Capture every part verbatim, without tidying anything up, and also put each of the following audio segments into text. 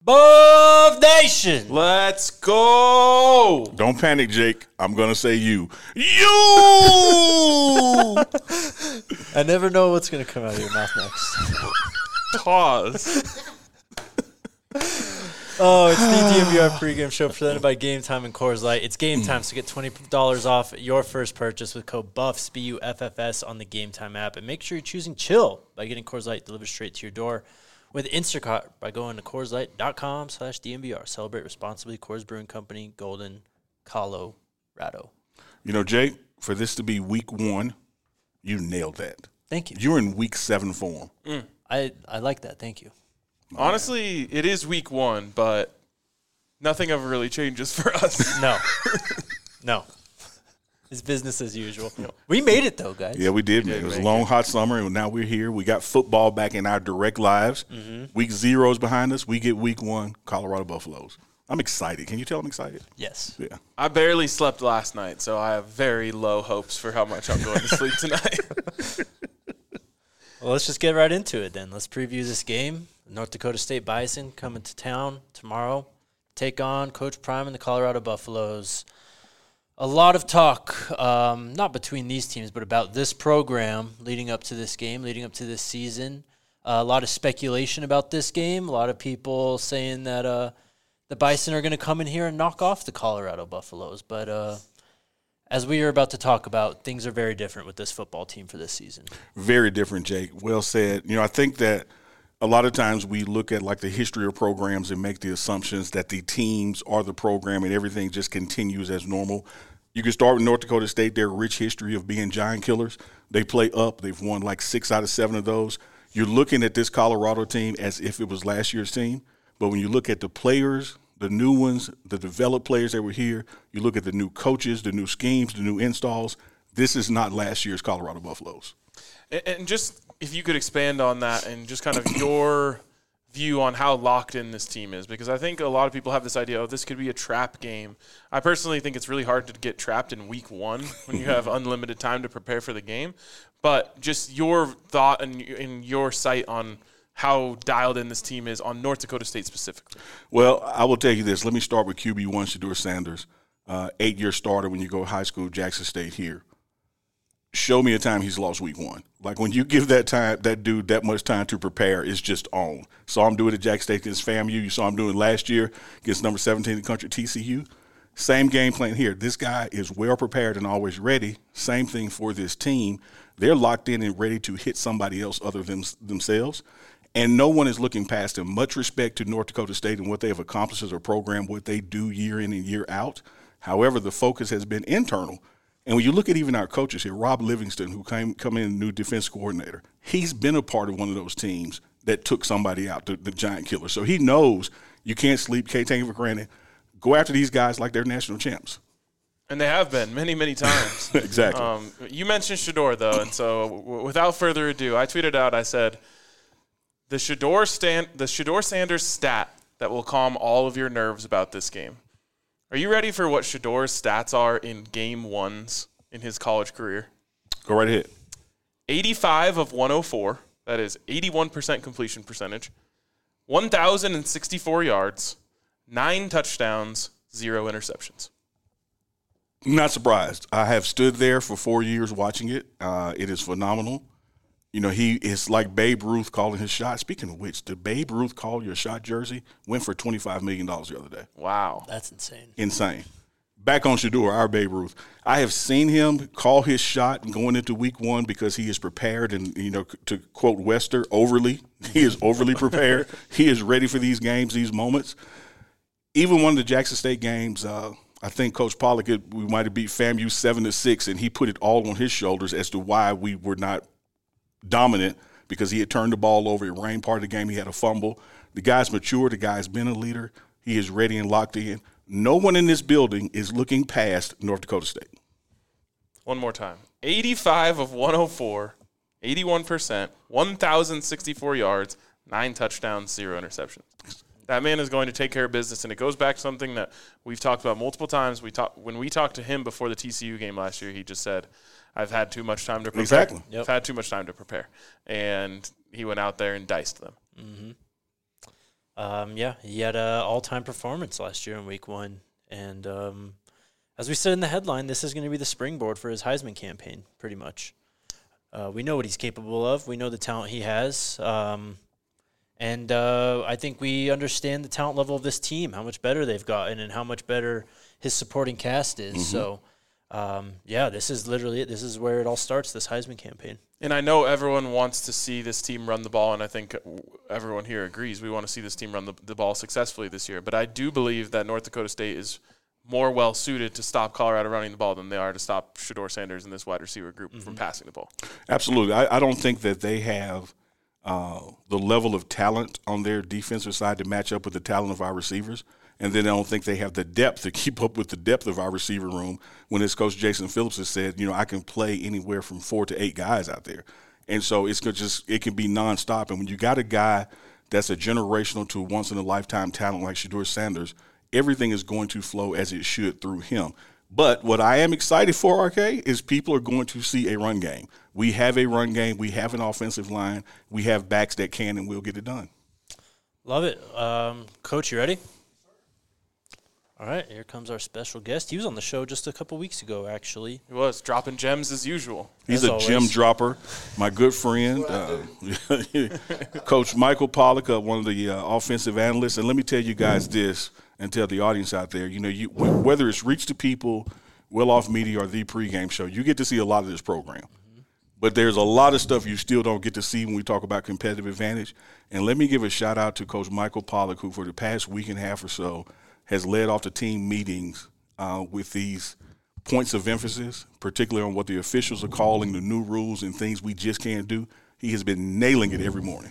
Bov Nation. Let's go. Don't panic, Jake. I'm going to say you. You! I never know what's going to come out of your mouth next. Pause. Oh, it's the D M V R pregame show presented by Game Time and Coors Light. It's game time, so get twenty dollars off your first purchase with code BUFFS, B U F F S, on the Game Time app. And make sure you're choosing chill by getting Coors Light delivered straight to your door with Instacart by going to Coors Light dot com slash D M V R. Celebrate responsibly. Coors Brewing Company, Golden, Colorado. You know, Jake, for this to be week one, you nailed that. Thank you. You're in week seven form. Mm. I, I like that. Thank you. Honestly, it is week one, but nothing ever really changes for us. No. No. It's business as usual. We made it, though, guys. Yeah, we did, We man. did It was a make long, it. hot summer, and now we're here. We got football back in our direct lives. Mm-hmm. Week zero's behind us. We get week one, Colorado Buffaloes. I'm excited. Can you tell I'm excited? Yes. Yeah. I barely slept last night, so I have very low hopes for how much I'm going to sleep tonight. Well, let's just get right into it then. Let's preview this game. North Dakota State Bison coming to town tomorrow. Take on Coach Prime and the Colorado Buffaloes. A lot of talk, um, not between these teams, but about this program leading up to this game, leading up to this season. Uh, a lot of speculation about this game. A lot of people saying that uh, the Bison are going to come in here and knock off the Colorado Buffaloes. But uh, as we are about to talk about, things are very different with this football team for this season. Very different, Jake. Well said. You know, I think that a lot of times we look at like the history of programs and make the assumptions that the teams are the program and everything just continues as normal. You can start with North Dakota State, their rich history of being giant killers. They play up. They've won like six out of seven of those. You're looking at this Colorado team as if it was last year's team. But when you look at the players, the new ones, the developed players that were here, you look at the new coaches, the new schemes, the new installs, this is not last year's Colorado Buffaloes. And, and just if you could expand on that and just kind of your view on how locked in this team is, because I think a lot of people have this idea, oh, this could be a trap game. I personally think it's really hard to get trapped in week one when you have unlimited time to prepare for the game. But just your thought and, and your sight on how dialed in this team is on North Dakota State specifically. Well, I will tell you this. Let me start with Q B one, Shedeur Sanders, uh, eight-year starter when you go high school, Jackson State here. Show me a time he's lost week one. Like when you give that time, that dude that much time to prepare, it's just on. Saw him do it at Jackson State against FAMU. You saw him do it last year against number seventeen in the country, T C U. Same game plan here. This guy is well prepared and always ready. Same thing for this team. They're locked in and ready to hit somebody else other than themselves. And no one is looking past them. Much respect to North Dakota State and what they have accomplished as a program, what they do year in and year out. However, the focus has been internal. And when you look at even our coaches here, Rob Livingston, who came come in, new defense coordinator, he's been a part of one of those teams that took somebody out, the, the giant killer. So he knows you can't sleep, can't take it for granted. Go after these guys like they're national champs. And they have been many, many times. Exactly. Um, you mentioned Shedeur, though, and so w- without further ado, I tweeted out, I said, the Shedeur, Stan- the Shedeur Sanders stat that will calm all of your nerves about this game. Are you ready for what Shedeur's stats are in game ones in his college career? Go right ahead. eighty-five of one oh four. That is eighty-one percent completion percentage. one thousand sixty-four yards. Nine touchdowns. Zero interceptions. Not surprised. I have stood there for four years watching it. Uh, it is phenomenal. You know, he is like Babe Ruth calling his shot. Speaking of which, did Babe Ruth call your shot jersey? Went for twenty-five million dollars the other day. Wow. That's insane. Insane. Back on Shedeur, our Babe Ruth. I have seen him call his shot going into week one because he is prepared and, you know, to quote Wester, overly. He is overly prepared. He is ready for these games, these moments. Even one of the Jackson State games, uh, I think Coach Pollock, we might have beat FAMU seven to six, and he put it all on his shoulders as to why we were not dominant, because he had turned the ball over. It rained part of the game. He had a fumble. The guy's mature. The guy's been a leader. He is ready and locked in. No one in this building is looking past North Dakota State. One more time. eighty-five of one oh four, eighty-one percent, one thousand sixty-four yards, nine touchdowns, zero interceptions. That man is going to take care of business, and it goes back to something that we've talked about multiple times. We talk, when we talked to him before the T C U game last year, he just said, I've had too much time to prepare. Exactly. Yep. I've had too much time to prepare. And he went out there and diced them. Mm-hmm. Um, yeah, he had an all-time performance last year in week one. And um, as we said in the headline, this is going to be the springboard for his Heisman campaign, pretty much. Uh, we know what he's capable of. We know the talent he has. Um, and uh, I think we understand the talent level of this team, how much better they've gotten and how much better his supporting cast is. Mm-hmm. So, um, yeah, this is literally it. This is where it all starts, this Heisman campaign. And I know everyone wants to see this team run the ball, and I think everyone here agrees. We want to see this team run the, the ball successfully this year. But I do believe that North Dakota State is more well-suited to stop Colorado running the ball than they are to stop Shedeur Sanders and this wide receiver group mm-hmm. from passing the ball. Absolutely. I, I don't think that they have uh, the level of talent on their defensive side to match up with the talent of our receivers. And then I don't think they have the depth to keep up with the depth of our receiver room when his coach Jason Phillips has said, you know, I can play anywhere from four to eight guys out there. And so it's gonna just it can be nonstop. And when you got a guy that's a generational to once-in-a-lifetime talent like Shedeur Sanders, everything is going to flow as it should through him. But what I am excited for, R K, is people are going to see a run game. We have a run game. We have an offensive line. We have backs that can and will get it done. Love it. Um, Coach, you ready? All right, here comes our special guest. He was on the show just a couple weeks ago, actually. He was, dropping gems as usual. He's as a always. gem dropper, my good friend, uh, Coach Michael Pollock, uh, one of the uh, offensive analysts. And let me tell you guys this, and tell the audience out there, you know, you whether it's Reach the People, Well Off Media, or the pregame show, you get to see a lot of this program. Mm-hmm. But there's a lot of stuff you still don't get to see when we talk about competitive advantage. And let me give a shout-out to Coach Michael Pollock, who for the past week and a half or so has led off the team meetings uh, with these points of emphasis, particularly on what the officials are calling the new rules and things we just can't do. He has been nailing it every morning.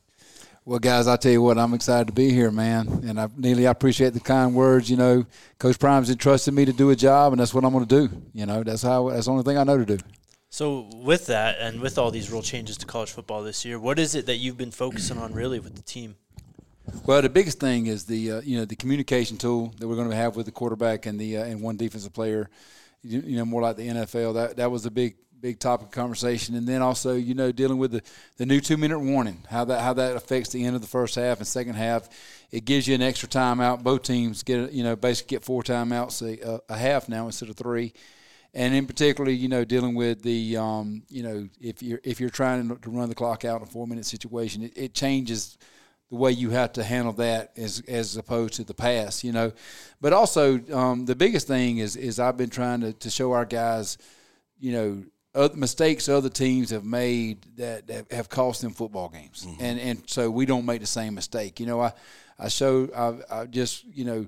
Well, guys, I tell you what, I'm excited to be here, man. And I, Neely, I appreciate the kind words. You know, Coach Prime's entrusted me to do a job, and that's what I'm going to do. You know, that's how. That's the only thing I know to do. So with that and with all these rule changes to college football this year, what is it that you've been focusing on really with the team? Well, the biggest thing is the uh, you know the communication tool that we're going to have with the quarterback and the uh, and one defensive player, you, you know, more like the N F L. That that was a big big topic of conversation. And then also, you know, dealing with the, the new two minute warning, how that how that affects the end of the first half and second half. It gives you an extra timeout. Both teams get you know basically get four timeouts a, a half now instead of three. And in particular, you know, dealing with the um, you know if you're if you're trying to run the clock out in a four minute situation, it, it changes the way you have to handle that as as opposed to the pass, you know. But also um, the biggest thing is is I've been trying to, to show our guys, you know, other mistakes other teams have made that, that have cost them football games. Mm-hmm. And and so we don't make the same mistake. You know, I, I showed I, I just, you know,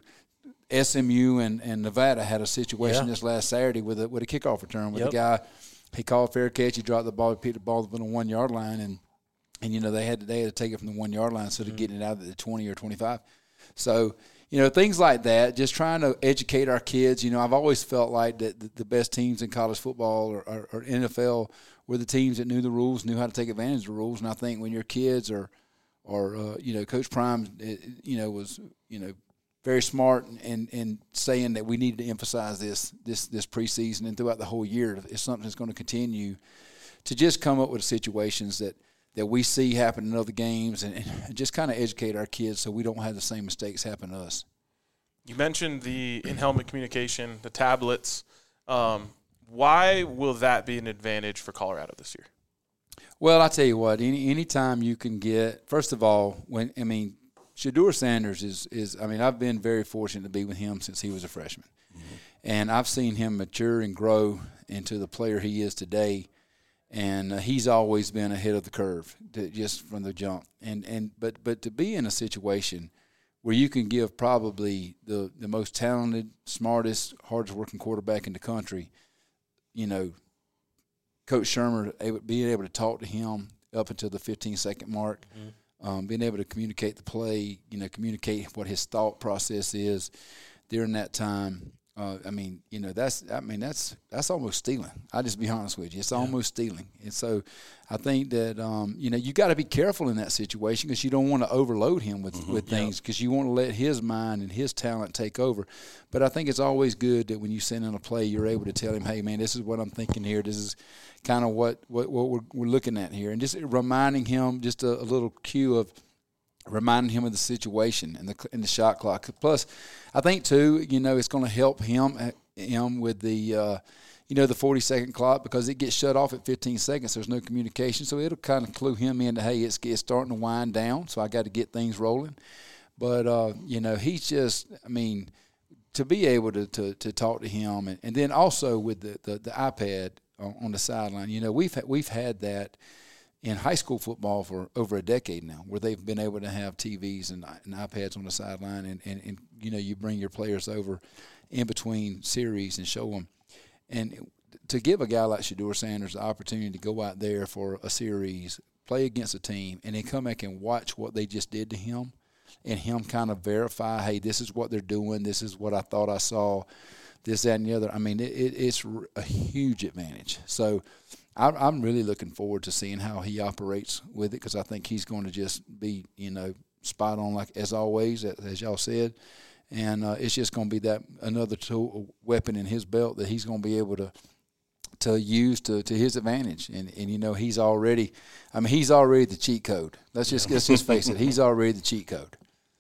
S M U and, and Nevada had a situation yeah. this last Saturday with a with a kickoff return with yep. a guy, he called fair catch, he dropped the ball, he picked the ball up on the one yard line and And, you know, they had to, they had to take it from the one-yard line instead of mm-hmm. getting it out at the twenty or twenty-five. So, you know, things like that, just trying to educate our kids. You know, I've always felt like that the, the best teams in college football or, or, or N F L were the teams that knew the rules, knew how to take advantage of the rules. And I think when your kids are, are uh, you know, Coach Prime, you know, was, you know, very smart in, in saying that we needed to emphasize this, this, this preseason and throughout the whole year. It's something that's going to continue to just come up with situations that, that we see happen in other games and, and just kind of educate our kids so we don't have the same mistakes happen to us. You mentioned the in-helmet communication, the tablets. Um, why will that be an advantage for Colorado this year? Well, I tell you what, any anytime you can get, first of all, when I mean, Shedeur Sanders is, is I mean, I've been very fortunate to be with him since he was a freshman. Mm-hmm. And I've seen him mature and grow into the player he is today. And uh, he's always been ahead of the curve, to, just from the jump. And and but but to be in a situation where you can give probably the, the most talented, smartest, hardest working quarterback in the country, you know, Coach Shermer able, being able to talk to him up until the fifteen second mark, mm-hmm. um, being able to communicate the play, you know, communicate what his thought process is during that time. Uh, I mean, you know, that's I mean that's that's almost stealing. I'll just be honest with you. It's yeah. almost stealing. And so I think that, um, you know, you got to be careful in that situation because you don't want to overload him with, mm-hmm. with things because yep. you want to let his mind and his talent take over. But I think it's always good that when you send in a play, you're able to tell him, hey, man, this is what I'm thinking here. This is kind of what, what, what we're, we're looking at here. And just reminding him just a, a little cue of, reminding him of the situation and the and the shot clock. Plus, I think too, you know, it's going to help him him with the uh, you know the forty second clock, because it gets shut off at fifteen seconds. There's no communication, so it'll kind of clue him into, hey, it's, it's starting to wind down, so I got to get things rolling. But uh, you know, he's just, I mean, to be able to to, to talk to him, and, and then also with the, the, the iPad on, on the sideline. You know, we've had, we've had that in high school football for over a decade now, where they've been able to have T Vs and, and iPads on the sideline, and, and, and, you know, you bring your players over in between series and show them. And to give a guy like Shedeur Sanders the opportunity to go out there for a series, play against a team, and then come back and watch what they just did to him, and him kind of verify, hey, this is what they're doing, this is what I thought I saw, this, that, and the other. I mean, it, it, it's a huge advantage. So I'm really looking forward to seeing how he operates with it, because I think he's going to just be, you know, spot on, like as always, as y'all said. And uh, it's just going to be that another tool, weapon in his belt that he's going to be able to to use to, to his advantage. And, and, you know, he's already – I mean, he's already the cheat code. Let's just, let's just face it. He's already the cheat code.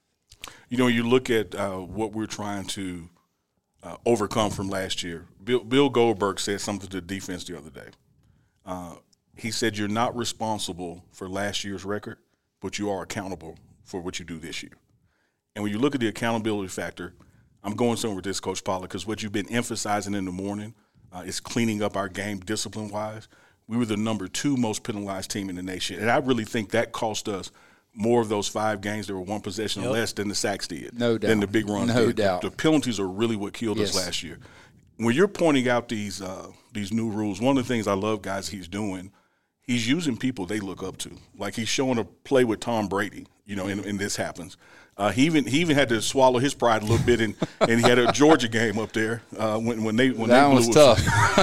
You know, you look at uh, what we're trying to uh, overcome from last year. Bill, Bill Goldberg said something to the defense the other day. Uh, he said, you're not responsible for last year's record, but you are accountable for what you do this year. And when you look at the accountability factor, I'm going somewhere with this, Coach Pollard, because what you've been emphasizing in the morning uh, is cleaning up our game discipline-wise. We were the number two most penalized team in the nation, and I really think that cost us more of those five games that were one possession yep. or less than the sacks did, no doubt. than the big runs no did. doubt. The, the penalties are really what killed yes. us last year. When you're pointing out these uh, these new rules, one of the things I love, guys, he's doing, he's using people they look up to. Like he's showing a play with Tom Brady, you know, and, and this happens. Uh, he even he even had to swallow his pride a little bit, and, and he had a Georgia game up there uh, when when they when that they blew was tough.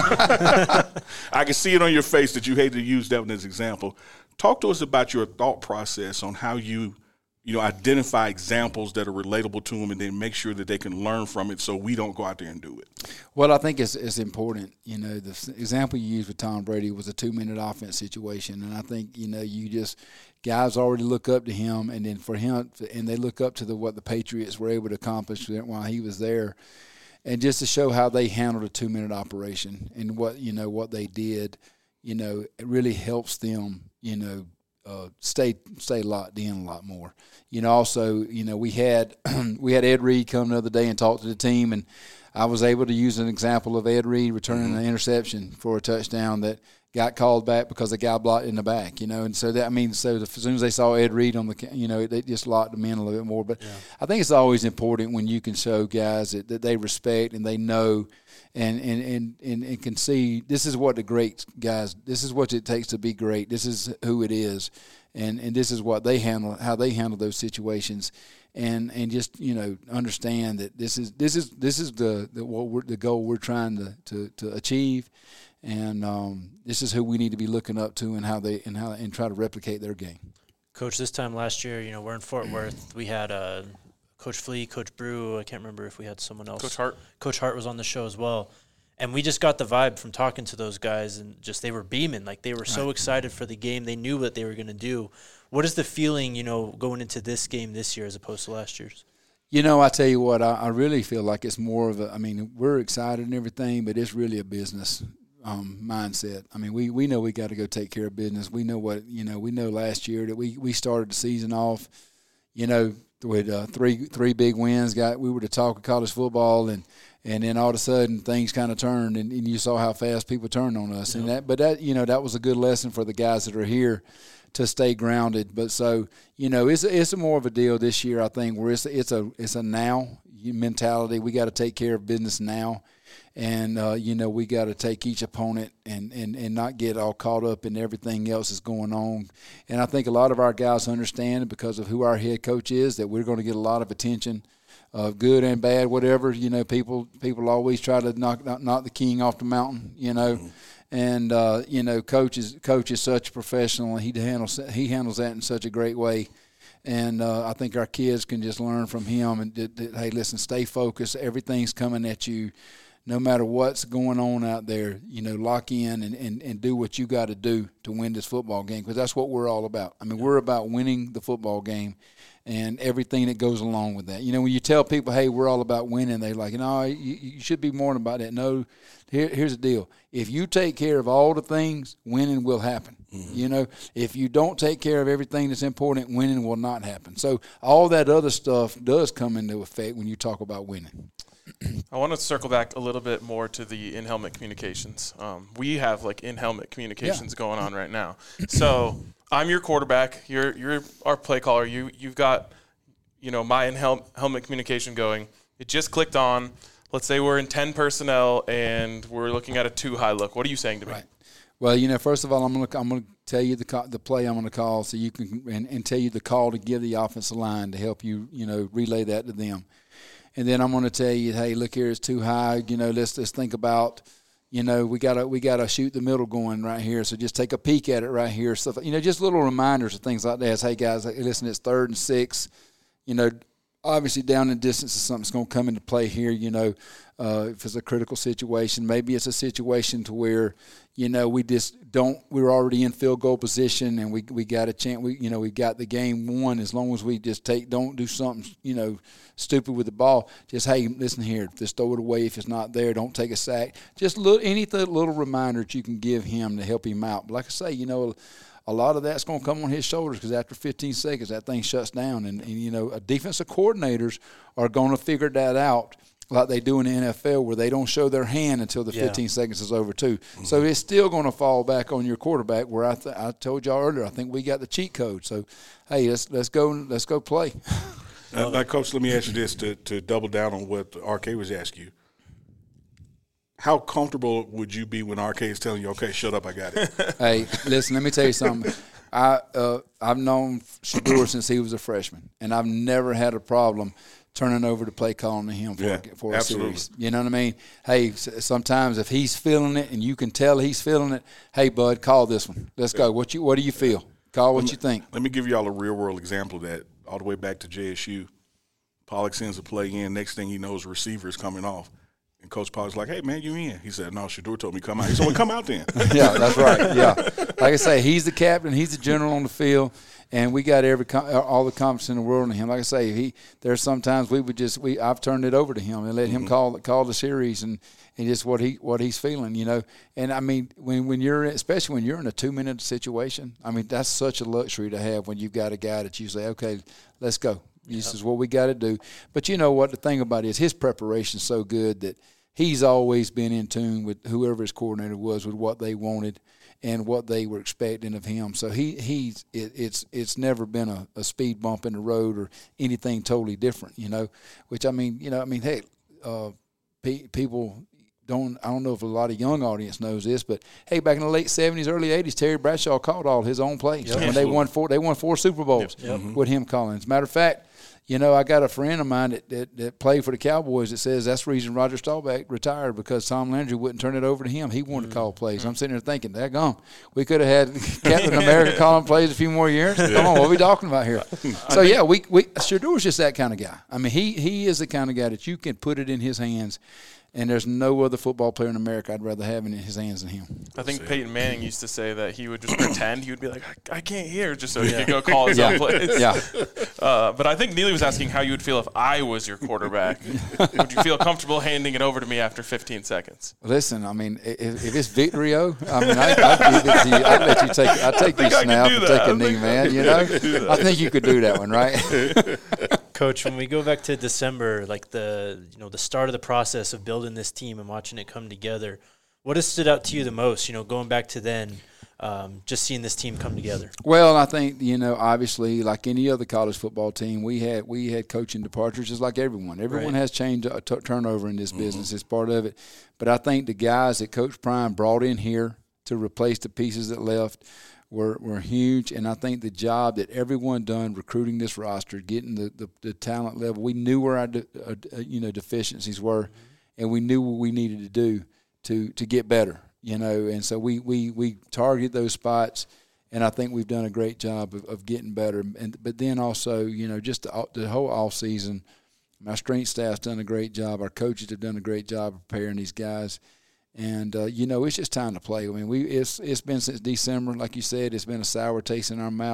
I can see it on your face that you hate to use that one as an example. Talk to us about your thought process on how you you know identify examples that are relatable to them, and then make sure that they can learn from it, so we don't go out there and do it. Well, I think it's it's important. You know, the example you used with Tom Brady was a two-minute offense situation, and I think, you know, you just guys already look up to him, and then for him, and they look up to the what the Patriots were able to accomplish while he was there, and just to show how they handled a two-minute operation and what you know what they did, you know, it really helps them, you know. Uh, stay stay locked in a lot more. You know, also, you know, we had we had Ed Reed come the other day and talk to the team, and I was able to use an example of Ed Reed returning mm-hmm. an interception for a touchdown that got called back because the guy blocked in the back. You know, and so that I mean, so as soon as they saw Ed Reed on the, you know, they just locked them in a little bit more. But yeah. I think it's always important when you can show guys that, that they respect and they know. And, and, and, and, and can see this is what the great guys, this is what it takes to be great. This is who it is. And, and this is what they handle, how they handle those situations. And, and just, you know, understand that this is, this is, this is the, the, what we're, the goal we're trying to, to, to achieve. And um, this is who we need to be looking up to and how they, and how, and try to replicate their game. Coach, this time last year, you know, we're in Fort Worth. We had a, Coach Flea, Coach Brew, I can't remember if we had someone else. Coach Hart. Coach Hart was on the show as well. And we just got the vibe from talking to those guys, and just they were beaming. Like, they were so right. excited for the game. They knew what they were going to do. What is the feeling, you know, going into this game this year as opposed to last year's? You know, I tell you what, I, I really feel like it's more of a – I mean, we're excited and everything, but it's really a business um, mindset. I mean, we, we know we got to go take care of business. We know what – you know, we know last year that we, we started the season off, you know – with uh, three three big wins. Got we were the talk of college football, and, and then all of a sudden things kind of turned, and, and you saw how fast people turned on us. Yep. And that, but that you know that was a good lesson for the guys that are here to stay grounded. But so you know it's it's a more of a deal this year, I think, where it's it's a it's a now mentality. We got to take care of business now. And, uh, you know, we got to take each opponent and, and, and not get all caught up in everything else that's going on. And I think a lot of our guys understand, because of who our head coach is, that we're going to get a lot of attention, uh, good and bad, whatever. You know, people people always try to knock knock, knock the king off the mountain, you know. Mm-hmm. And, uh, you know, coach is, coach is such a professional, and he handles, he handles that in such a great way. And uh, I think our kids can just learn from him. And, that, that, hey, listen, stay focused. Everything's coming at you. No matter what's going on out there, you know, lock in and, and, and do what you got to do to win this football game, because that's what we're all about. I mean, we're about winning the football game, and everything that goes along with that. You know, when you tell people, hey, we're all about winning, they're like, no, you, you should be more about that. No, here, here's the deal. If you take care of all the things, winning will happen. Mm-hmm. You know, if you don't take care of everything that's important, winning will not happen. So all that other stuff does come into effect when you talk about winning. I want to circle back a little bit more to the in-helmet communications. Um, we have, like, in-helmet communications yeah. going on right now. So – I'm your quarterback. You're you're our play caller. You you've got, you know, my in helmet communication going. It just clicked on. Let's say we're in ten personnel and we're looking at a two high look. What are you saying to me? Right. Well, you know, first of all, I'm gonna I'm gonna tell you the call, the play I'm gonna call, so you can and, and tell you the call to give the offensive line to help you, you know, relay that to them. And then I'm gonna tell you, hey, look here, it's too high. You know, let's let's think about. You know, we gotta we gotta shoot the middle going right here. So just take a peek at it right here. Stuff, you know, just little reminders of things like that. It's, hey guys, listen, it's third and six. You know, obviously down in distance is something that's going to come into play here. You know, uh, if it's a critical situation, maybe it's a situation to where, you know, we just don't. We're already in field goal position, and we we got a chance. We you know we got the game won as long as we just take don't do something you know stupid with the ball. Just hey, listen here, just throw it away if it's not there. Don't take a sack. Just little any little reminder that you can give him to help him out. But like I say, you know. A lot of that's going to come on his shoulders because after fifteen seconds, that thing shuts down. And, and you know, defensive coordinators are going to figure that out like they do in the N F L where they don't show their hand until the yeah. fifteen seconds is over too. Mm-hmm. So it's still going to fall back on your quarterback where I th- I told y'all earlier, I think we got the cheat code. So, hey, let's let's go let's go play. uh, now, Coach, let me ask you this to, to double down on what R K was asking you. How comfortable would you be when R K is telling you, okay, shut up, I got it? Hey, listen, let me tell you something. I, uh, I've known Shedeur since he was a freshman, and I've never had a problem turning over the play calling to him for, yeah, a, for a absolutely. series. You know what I mean? Hey, sometimes if he's feeling it and you can tell he's feeling it, hey, bud, call this one. Let's go. What you? What do you feel? Call what me, you think. Let me give you all a real-world example of that all the way back to J S U. Pollock sends a play in. Next thing he knows, receiver is coming off. And Coach Pollock's like, hey, man, you in. He said, no, Shedeur told me come out. He said, well, come out then. Yeah, that's right. Yeah. Like I say, he's the captain. He's the general on the field. And we got every all the confidence in the world in him. Like I say, he there's sometimes we would just we I've turned it over to him and let him mm-hmm. call call the series and, and just what he what he's feeling, you know. And I mean, when when you're especially when you're in a two minute situation, I mean that's such a luxury to have when you've got a guy that you say, okay, let's go. This yep. is what we got to do. But you know what the thing about it is his preparation's so good that he's always been in tune with whoever his coordinator was with what they wanted and what they were expecting of him. So he he's it, it's it's never been a, a speed bump in the road or anything totally different, you know. Which I mean, you know, I mean, hey, uh, pe- people don't. I don't know if a lot of young audience knows this, but hey, back in the late seventies, early eighties, Terry Bradshaw called all his own plays yep. when Absolutely. they won four. They won four Super Bowls yep. Yep. with him calling. As a matter of fact. You know, I got a friend of mine that, that, that played for the Cowboys that says that's the reason Roger Staubach retired because Tom Landry wouldn't turn it over to him. He wanted mm-hmm. to call plays. Mm-hmm. I'm sitting there thinking, daggone, we could have had Captain America calling plays a few more years. Yeah. Come on, what are we talking about here? So, yeah, we, we Shedeur's just that kind of guy. I mean, he, he is the kind of guy that you can put it in his hands. And there's no other football player in America I'd rather have in his hands than him. I think Peyton Manning used to say that he would just pretend. He would be like, I, I can't hear, just so he yeah. could go call his yeah. own plays. Yeah. Uh, but I think Neely was asking how you would feel if I was your quarterback. Would you feel comfortable handing it over to me after fifteen seconds? Listen, I mean, if, if it's Victorio, I mean, I, I'd give it to you. I'd let you take I'd take your snap and take a knee, man. You know? I think you could do that one, right? Coach, when we go back to December, like the you know the start of the process of building this team and watching it come together, what has stood out to you the most? You know, going back to then, um, just seeing this team come together. Well, I think you know, obviously, like any other college football team, we had we had coaching departures, just like everyone. Everyone right. has change uh, t- turnover in this mm-hmm. business; it's part of it. But I think the guys that Coach Prime brought in here to replace the pieces that left. Were, were huge, and I think the job that everyone done recruiting this roster, getting the, the, the talent level, we knew where our de, uh, you know deficiencies were, mm-hmm. and we knew what we needed to do to to get better, you know, and so we we, we targeted those spots, and I think we've done a great job of, of getting better. And but then also, you know, just the, the whole off season, my strength staff's done a great job. Our coaches have done a great job of preparing these guys. And, uh, you know, it's just time to play. I mean, we it's it's been since December, like you said. It's been a sour taste in our mouth.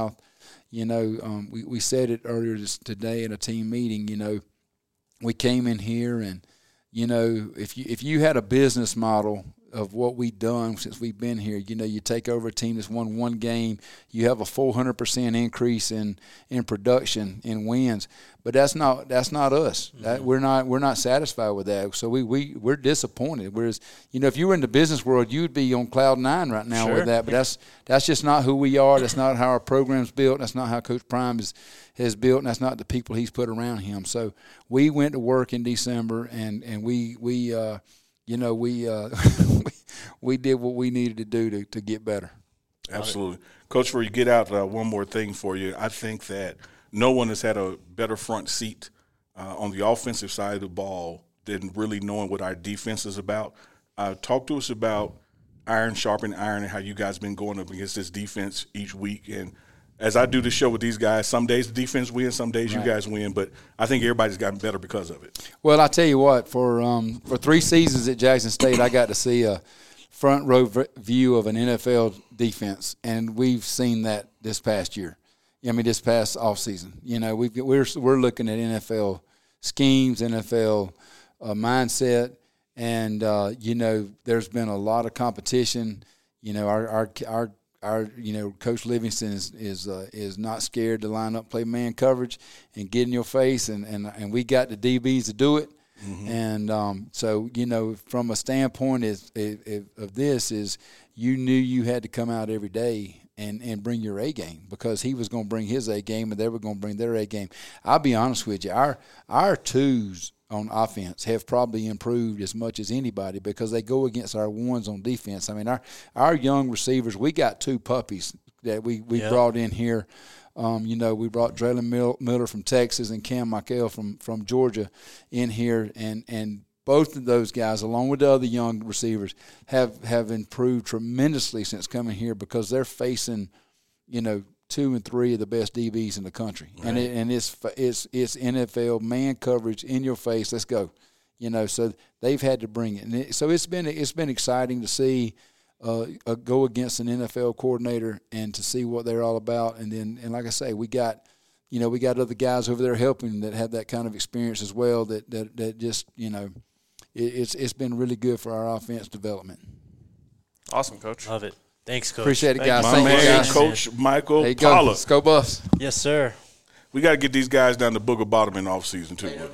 You know, um, we, we said it earlier this, today at a team meeting, you know, we came in here and, you know, if you if you had a business model of what we've done since we've been here, you know, you take over a team that's won one game, you have a four hundred percent increase in, in production, in wins. But that's not that's not us. Mm-hmm. That, we're not we're not satisfied with that. So we we we're disappointed. Whereas, you know, if you were in the business world, you'd be on cloud nine right now sure. with that. But that's that's just not who we are. That's not how our program's built. That's not how Coach Prime is has built, and that's not the people he's put around him. So we went to work in December, and and we we uh, you know we uh, we, we did what we needed to do to to get better. Absolutely, Coach. Before you get out, uh, one more thing for you. I think that no one has had a better front seat uh, on the offensive side of the ball than really knowing what our defense is about. Uh, talk to us about iron sharpen iron and how you guys been going up against this defense each week. And as I do the show with these guys, some days the defense wins, some days right. you guys win. But I think everybody's gotten better because of it. Well, I tell you what, for um, for three seasons at Jackson State, I got to see a front row v- view of an N F L defense, and we've seen that this past year. I mean, this past offseason. You know, we've, we're we're looking at N F L schemes, N F L uh, mindset, and uh, you know, there's been a lot of competition. You know, our our our, our you know, Coach Livingston is is uh, is not scared to line up, play man coverage, and get in your face, and and and we got the D Bs to do it. Mm-hmm. And um, so, you know, from a standpoint is, is, of this is you knew you had to come out every day and, and bring your A game, because he was going to bring his A game and they were going to bring their A game. I'll be honest with you, our our twos on offense have probably improved as much as anybody because they go against our ones on defense. I mean, our our young receivers, we got two puppies that we, we yep. brought in here. Um, you know, we brought Draylen Miller from Texas and Cam Michael from, from Georgia in here, and, and both of those guys, along with the other young receivers, have, have improved tremendously since coming here because they're facing, you know, two and three of the best D Bs in the country, right. and it, and it's it's it's N F L man coverage in your face. Let's go, you know. So they've had to bring it, and it, so it's been it's been exciting to see. Uh, uh, go against an N F L coordinator and to see what they're all about. And then, and like I say, we got, you know, we got other guys over there helping that have that kind of experience as well that, that, that just, you know, it, it's it's been really good for our offense development. Awesome, Coach. Love it. Thanks, Coach. Appreciate it, Thank guys. My Thank man, you, guys. Coach Michael There you go. Pollack. Let's go, Buffs. Yes, sir. We got to get these guys down to Booger Bottom in off season too. Hey, no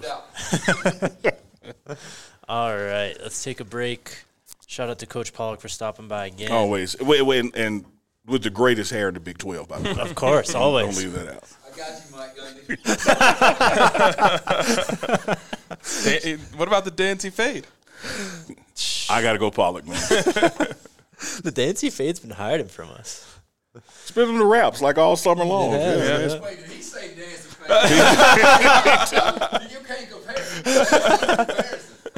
doubt. All right, let's take a break. Shout out to Coach Pollack for stopping by again. Always. Wait, wait, and, and with the greatest hair in the Big twelve, by the way. Of course, don't, always. Don't leave that out. I got you, Mike Gundy. What about the Dancy fade? I got to go Pollack, man. The Dancy fade's been hiding from us. Spinning the raps like all summer long. Yeah, Yeah, yeah. man. Wait, did he say Dancy fade? You can't compare.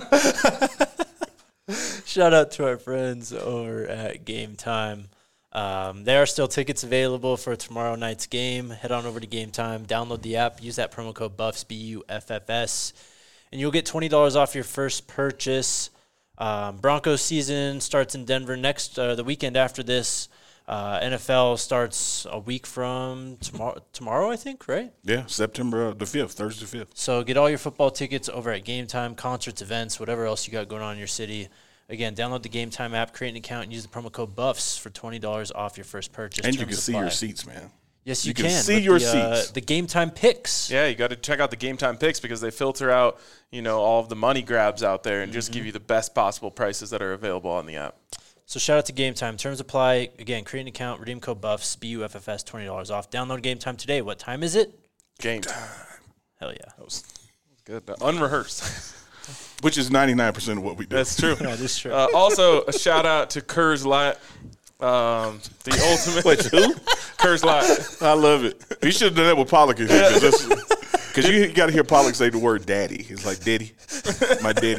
Shout out to our friends over at Game Time. Um, there are still tickets available for tomorrow night's game. Head on over to Game Time, download the app, use that promo code BUFFS, B U F F S, and you'll get twenty dollars off your first purchase. Um, Broncos season starts in Denver next uh, the weekend after this. Uh, N F L starts a week from tomorrow, tomorrow, I think, right? Yeah, September uh, the fifth, Thursday the fifth. So get all your football tickets over at Game Time, concerts, events, whatever else you got going on in your city. Again, download the Game Time app, create an account, and use the promo code BUFFS for twenty dollars off your first purchase. And you Terms can see apply. your seats, man. Yes, you, You can can. see with your the, uh, seats. the Game Time picks. Yeah, you got to check out the Game Time picks because they filter out, you know, all of the money grabs out there and just Mm-hmm. give you the best possible prices that are available on the app. So shout out to Game Time. Terms apply. Again, create an account, redeem code BUFFS, B U F F S, twenty dollars off. Download Game Time today. What time is it? Game time. Hell yeah. That was good. Unrehearsed. Which is ninety-nine percent of what we do. That's true. That is true. Uh, also, a shout out to Kurz Light, um, the ultimate. Wait, who? Kurz Light. I love it. You should have done that with Pollack in here. Because you got to hear Pollack say the word daddy. He's like, daddy, my daddy.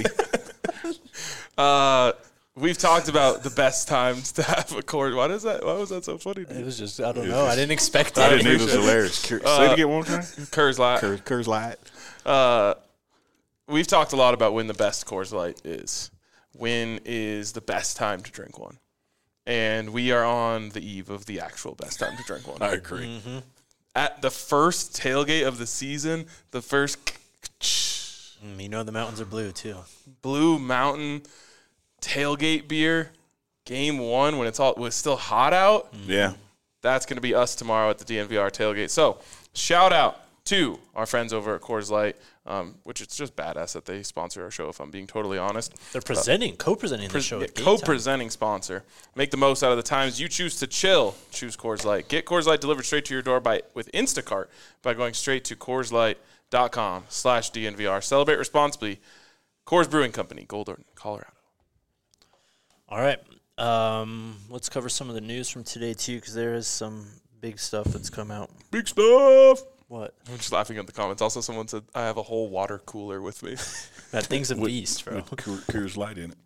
Uh, we've talked about the best times to have a cord. Why does that? Why was that so funny? It was just, I don't know. I didn't expect I that. didn't either. It was hilarious. Say it again one more time. Kurz Light. Curse, curse light. Uh, we've talked a lot about when the best Coors Light is. When is the best time to drink one? And we are on the eve of the actual best time to drink one. I agree. Mm-hmm. at the first tailgate of the season, the first Mm, you know the mountains are blue, too. Blue Mountain tailgate beer, game one when it's all when it's still hot out. Yeah. That's going to be us tomorrow at the D N V R tailgate. So shout out to our friends over at Coors Light, um, which it's just badass that they sponsor our show, if I'm being totally honest. They're presenting, uh, co-presenting pre- the show. yeah, at Game co-presenting sponsor. Make the most out of the times you choose to chill. Choose Coors Light. Get Coors Light delivered straight to your door by with Instacart by going straight to Coors Light dot com slash D N V R. Celebrate responsibly. Coors Brewing Company, Golden, Colorado. All right. Um, let's cover some of the news from today, too, because there is some big stuff that's come out. Big stuff. What? I'm just laughing at the comments. Also, someone said, I have a whole water cooler with me. That thing's a With- beast, bro. With Coors Coors Light in it.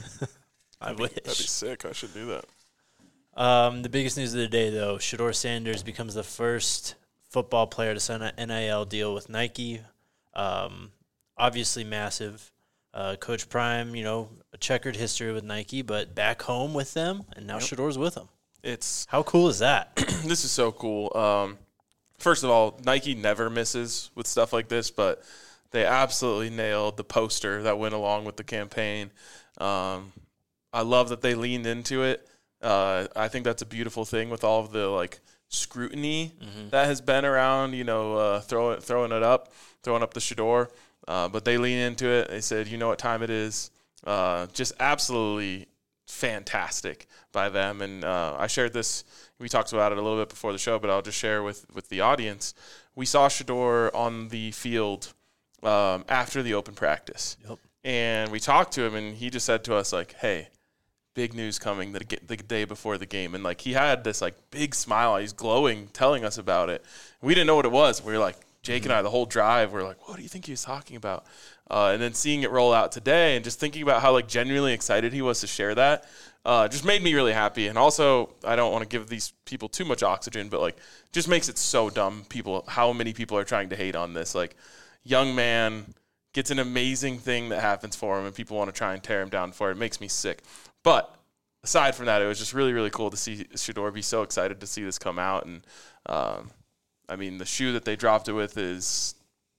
I That'd be wish. sick. I should do that. Um, the biggest news of the day, though, Shedeur Sanders becomes the first football player to sign an N I L deal with Nike. Um, obviously massive. Uh, Coach Prime, you know, a checkered history with Nike, but back home with them, and now Yep. Shedeur's with them. It's How cool is that? This is so cool. Um, first of all, Nike never misses with stuff like this, but they absolutely nailed the poster that went along with the campaign. Um, I love that they leaned into it. Uh, I think that's a beautiful thing with all of the like scrutiny Mm-hmm. that has been around. You know, uh, throw it, throwing it up, throwing up the Shedeur. Uh, but they lean into it. They said, you know what time it is. Uh, just absolutely fantastic by them. And uh, I shared this. We talked about it a little bit before the show, but I'll just share with, with the audience. We saw Shedeur on the field um, after the open practice. Yep. And we talked to him, and he just said to us, like, hey, big news coming the, the day before the game. And, like, he had this, like, big smile. He's glowing, telling us about it. We didn't know what it was. We were like, Jake and I, the whole drive, we're like, what do you think he was talking about? Uh, and then seeing it roll out today and just thinking about how, like, genuinely excited he was to share that uh, just made me really happy. And also, I don't want to give these people too much oxygen, but, like, just makes it so dumb, people, how many people are trying to hate on this. Like, young man gets an amazing thing that happens for him, and people want to try and tear him down for it. It makes me sick. But aside from that, it was just really, really cool to see Shedeur be so excited to see this come out. And, um, I mean, the shoe that they dropped it with is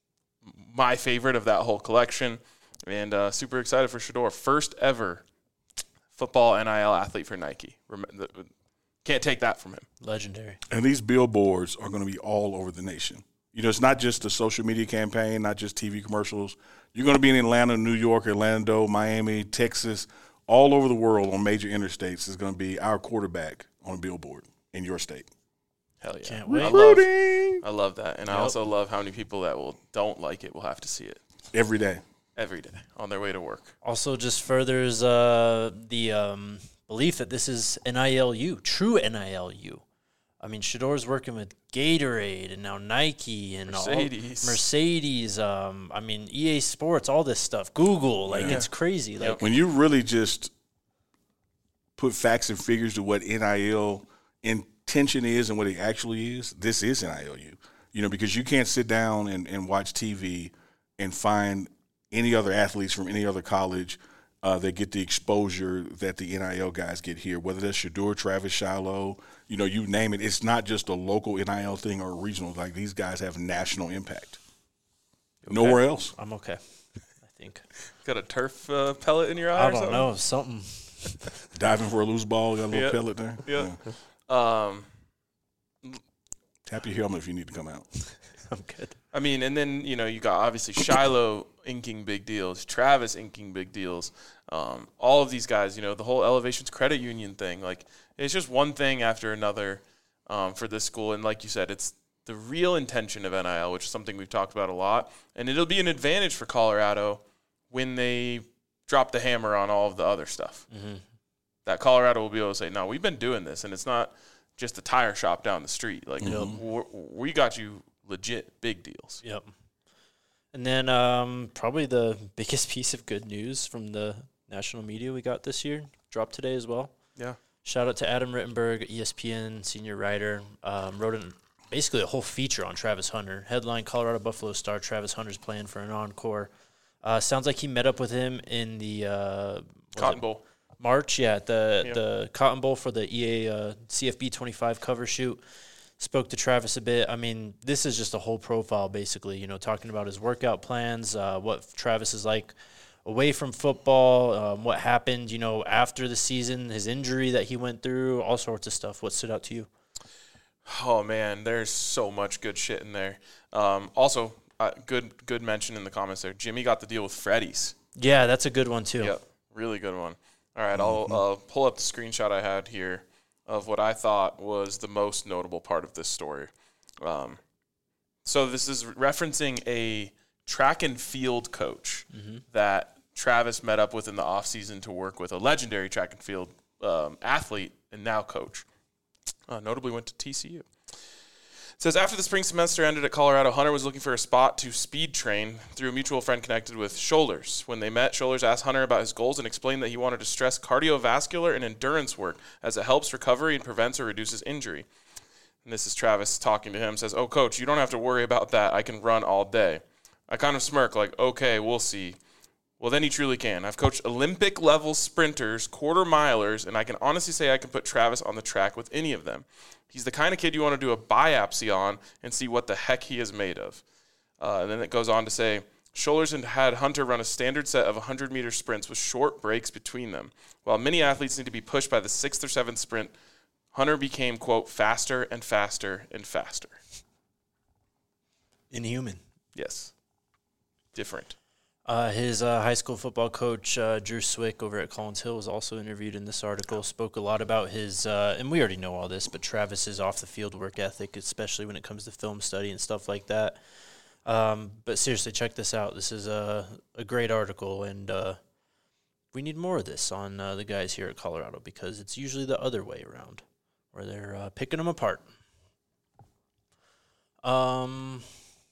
my favorite of that whole collection, and uh, super excited for Shedeur. First ever football N I L athlete for Nike. Rem- Can't take that from him. Legendary. And these billboards are going to be all over the nation. You know, it's not just a social media campaign, not just T V commercials. You're going to be in Atlanta, New York, Orlando, Miami, Texas, all over the world on major interstates is going to be our quarterback on a billboard in your state. Hell yeah. Can't wait. I love, Recruiting! I love that. And I Yep. also love how many people that will don't like it will have to see it Every day. every day on their way to work. Also just furthers uh, the um, belief that this is N I L U, true N I L U. I mean, Shedeur's working with Gatorade and now Nike and Mercedes. all, Mercedes. Um, I mean, E A Sports, all this stuff. Google, like Yeah. it's crazy. Like When you really just put facts and figures to what N I L intention is and what it actually is, this is N I L U. You know, because you can't sit down and, and watch T V and find any other athletes from any other college uh, that get the exposure that the N I L guys get here, whether that's Shedeur, Travis Shiloh, you know, you name it. It's not just a local N I L thing or a regional. Like, these guys have national impact. Nowhere else. I'm okay. I think. Got a turf uh, pellet in your eye I or don't something? know. Something. Diving for a loose ball, got a little Yeah. pellet there. Yeah. Um, Tap your helmet if you need to come out. I'm good. I mean, and then, you know, you got obviously Shiloh inking big deals, Travis inking big deals. Um, all of these guys, you know, the whole Elevations Credit Union thing, like, it's just one thing after another um, for this school. And like you said, it's the real intention of N I L, which is something we've talked about a lot. And it'll be an advantage for Colorado when they drop the hammer on all of the other stuff. Mm-hmm. That Colorado will be able to say, no, we've been doing this, and it's not just a tire shop down the street. Like, we're, we got you legit big deals. Yep. And then um, probably the biggest piece of good news from the national media we got this year dropped today as well. Yeah. Shout out to Adam Rittenberg, E S P N senior writer. Um, wrote an, basically a whole feature on Travis Hunter. Headline, Colorado Buffalo star Travis Hunter's playing for an encore. Uh, sounds like he met up with him in the uh, Cotton Bowl. March, yeah, at the Yeah. the Cotton Bowl for the E A uh, C F B twenty-five cover shoot. spoke to Travis a bit. I mean, this is just a whole profile, basically, you know, talking about his workout plans, uh, what Travis is like away from football, um, what happened, you know, after the season, his injury that he went through, all sorts of stuff. What stood out to you? Oh, man, there's so much good shit in there. Um, also, uh, good good mention in the comments there. Jimmy got the deal with Freddy's. Yeah, that's a good one, too. Yep, really good one. All right, mm-hmm. I'll uh, pull up the screenshot I had here of what I thought was the most notable part of this story. Um, so this is referencing a track and field coach mm-hmm. that Travis met up with in the offseason to work with, a legendary track and field um, athlete and now coach. Uh, notably went to T C U. It says, after the spring semester ended at Colorado, Hunter was looking for a spot to speed train through a mutual friend connected with Shoulders. When they met, Shoulders asked Hunter about his goals and explained that he wanted to stress cardiovascular and endurance work as it helps recovery and prevents or reduces injury. And this is Travis talking to him, says, oh, coach, you don't have to worry about that. I can run all day. I kind of smirk like, okay, we'll see. Well, then he truly can. I've coached Olympic-level sprinters, quarter-milers, and I can honestly say I can put Travis on the track with any of them. He's the kind of kid you want to do a biopsy on and see what the heck he is made of. Uh, and then it goes on to say, Shoulders had Hunter run a standard set of one hundred meter sprints with short breaks between them. While many athletes need to be pushed by the sixth or seventh sprint, Hunter became, quote, faster and faster and faster. Inhuman. Yes. Different. Uh, his uh, high school football coach, uh, Drew Swick, over at Collins Hill, was also interviewed in this article, spoke a lot about his, uh, and we already know all this, but Travis's off-the-field work ethic, especially when it comes to film study and stuff like that. Um, but seriously, check this out. This is a, a great article, and uh, we need more of this on uh, the guys here at Colorado because it's usually the other way around, where they're uh, picking them apart. Um...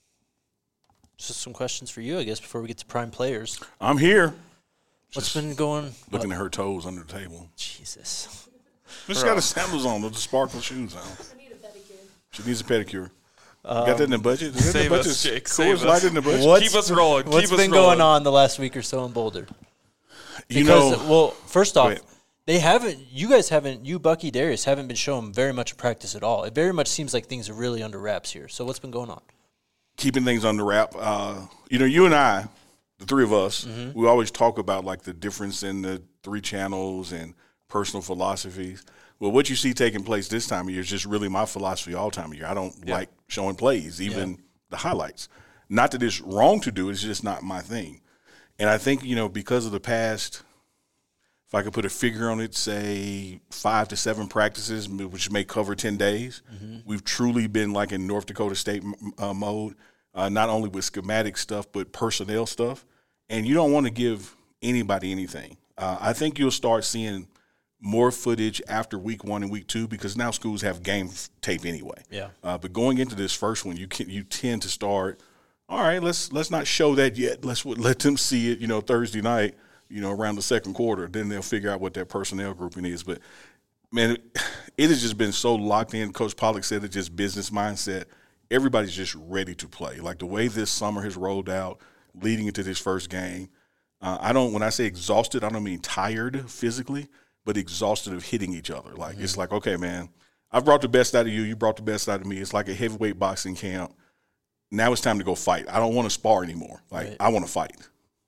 Just some questions for you, I guess, before we get to prime players. I'm here. What's Just been going? Looking what? At her toes under the table. Jesus. She's got the sandals on with the sparkle shoes on. I need a pedicure. She needs a pedicure. Um, got that in the budget? Is save in the budget? us, Jake. Cool, save us. us. In the budget? What's, Keep us rolling. What's Keep been us rolling. going on the last week or so in Boulder? You because, know. Well, first off, they haven't, you guys haven't, you, Bucky, Darius, haven't been showing very much of practice at all. It very much seems like things are really under wraps here. So what's been going on? Keeping things under wrap. Uh, you know, you and I, the three of us, mm-hmm. we always talk about like the difference in the three channels and personal philosophies. Well, what you see taking place this time of year is just really my philosophy all time of year. I don't yeah. like showing plays, even yeah. the highlights. Not that it's wrong to do it, it's just not my thing. And I think, you know, because of the past, if I could put a figure on it, say five to seven practices, which may cover ten days, mm-hmm. we've truly been like in North Dakota State uh, mode. Uh, not only with schematic stuff, but personnel stuff. And you don't want to give anybody anything. Uh, I think you'll start seeing more footage after week one and week two because now schools have game tape anyway. Yeah. Uh, but going into this first one, you can, you tend to start, all right, let's let's not show that yet. Let's let them see it, you know, Thursday night, you know, around the second quarter. Then they'll figure out what their personnel grouping is. But, man, it, it has just been so locked in. Coach Pollock said it's just business mindset. Everybody's just ready to play. Like the way this summer has rolled out, leading into this first game, uh, I don't. When I say exhausted, I don't mean tired physically, but exhausted of hitting each other. Like mm-hmm. it's like, okay, man, I've brought the best out of you. You brought the best out of me. It's like a heavyweight boxing camp. Now it's time to go fight. I don't want to spar anymore. Like right. I want to fight.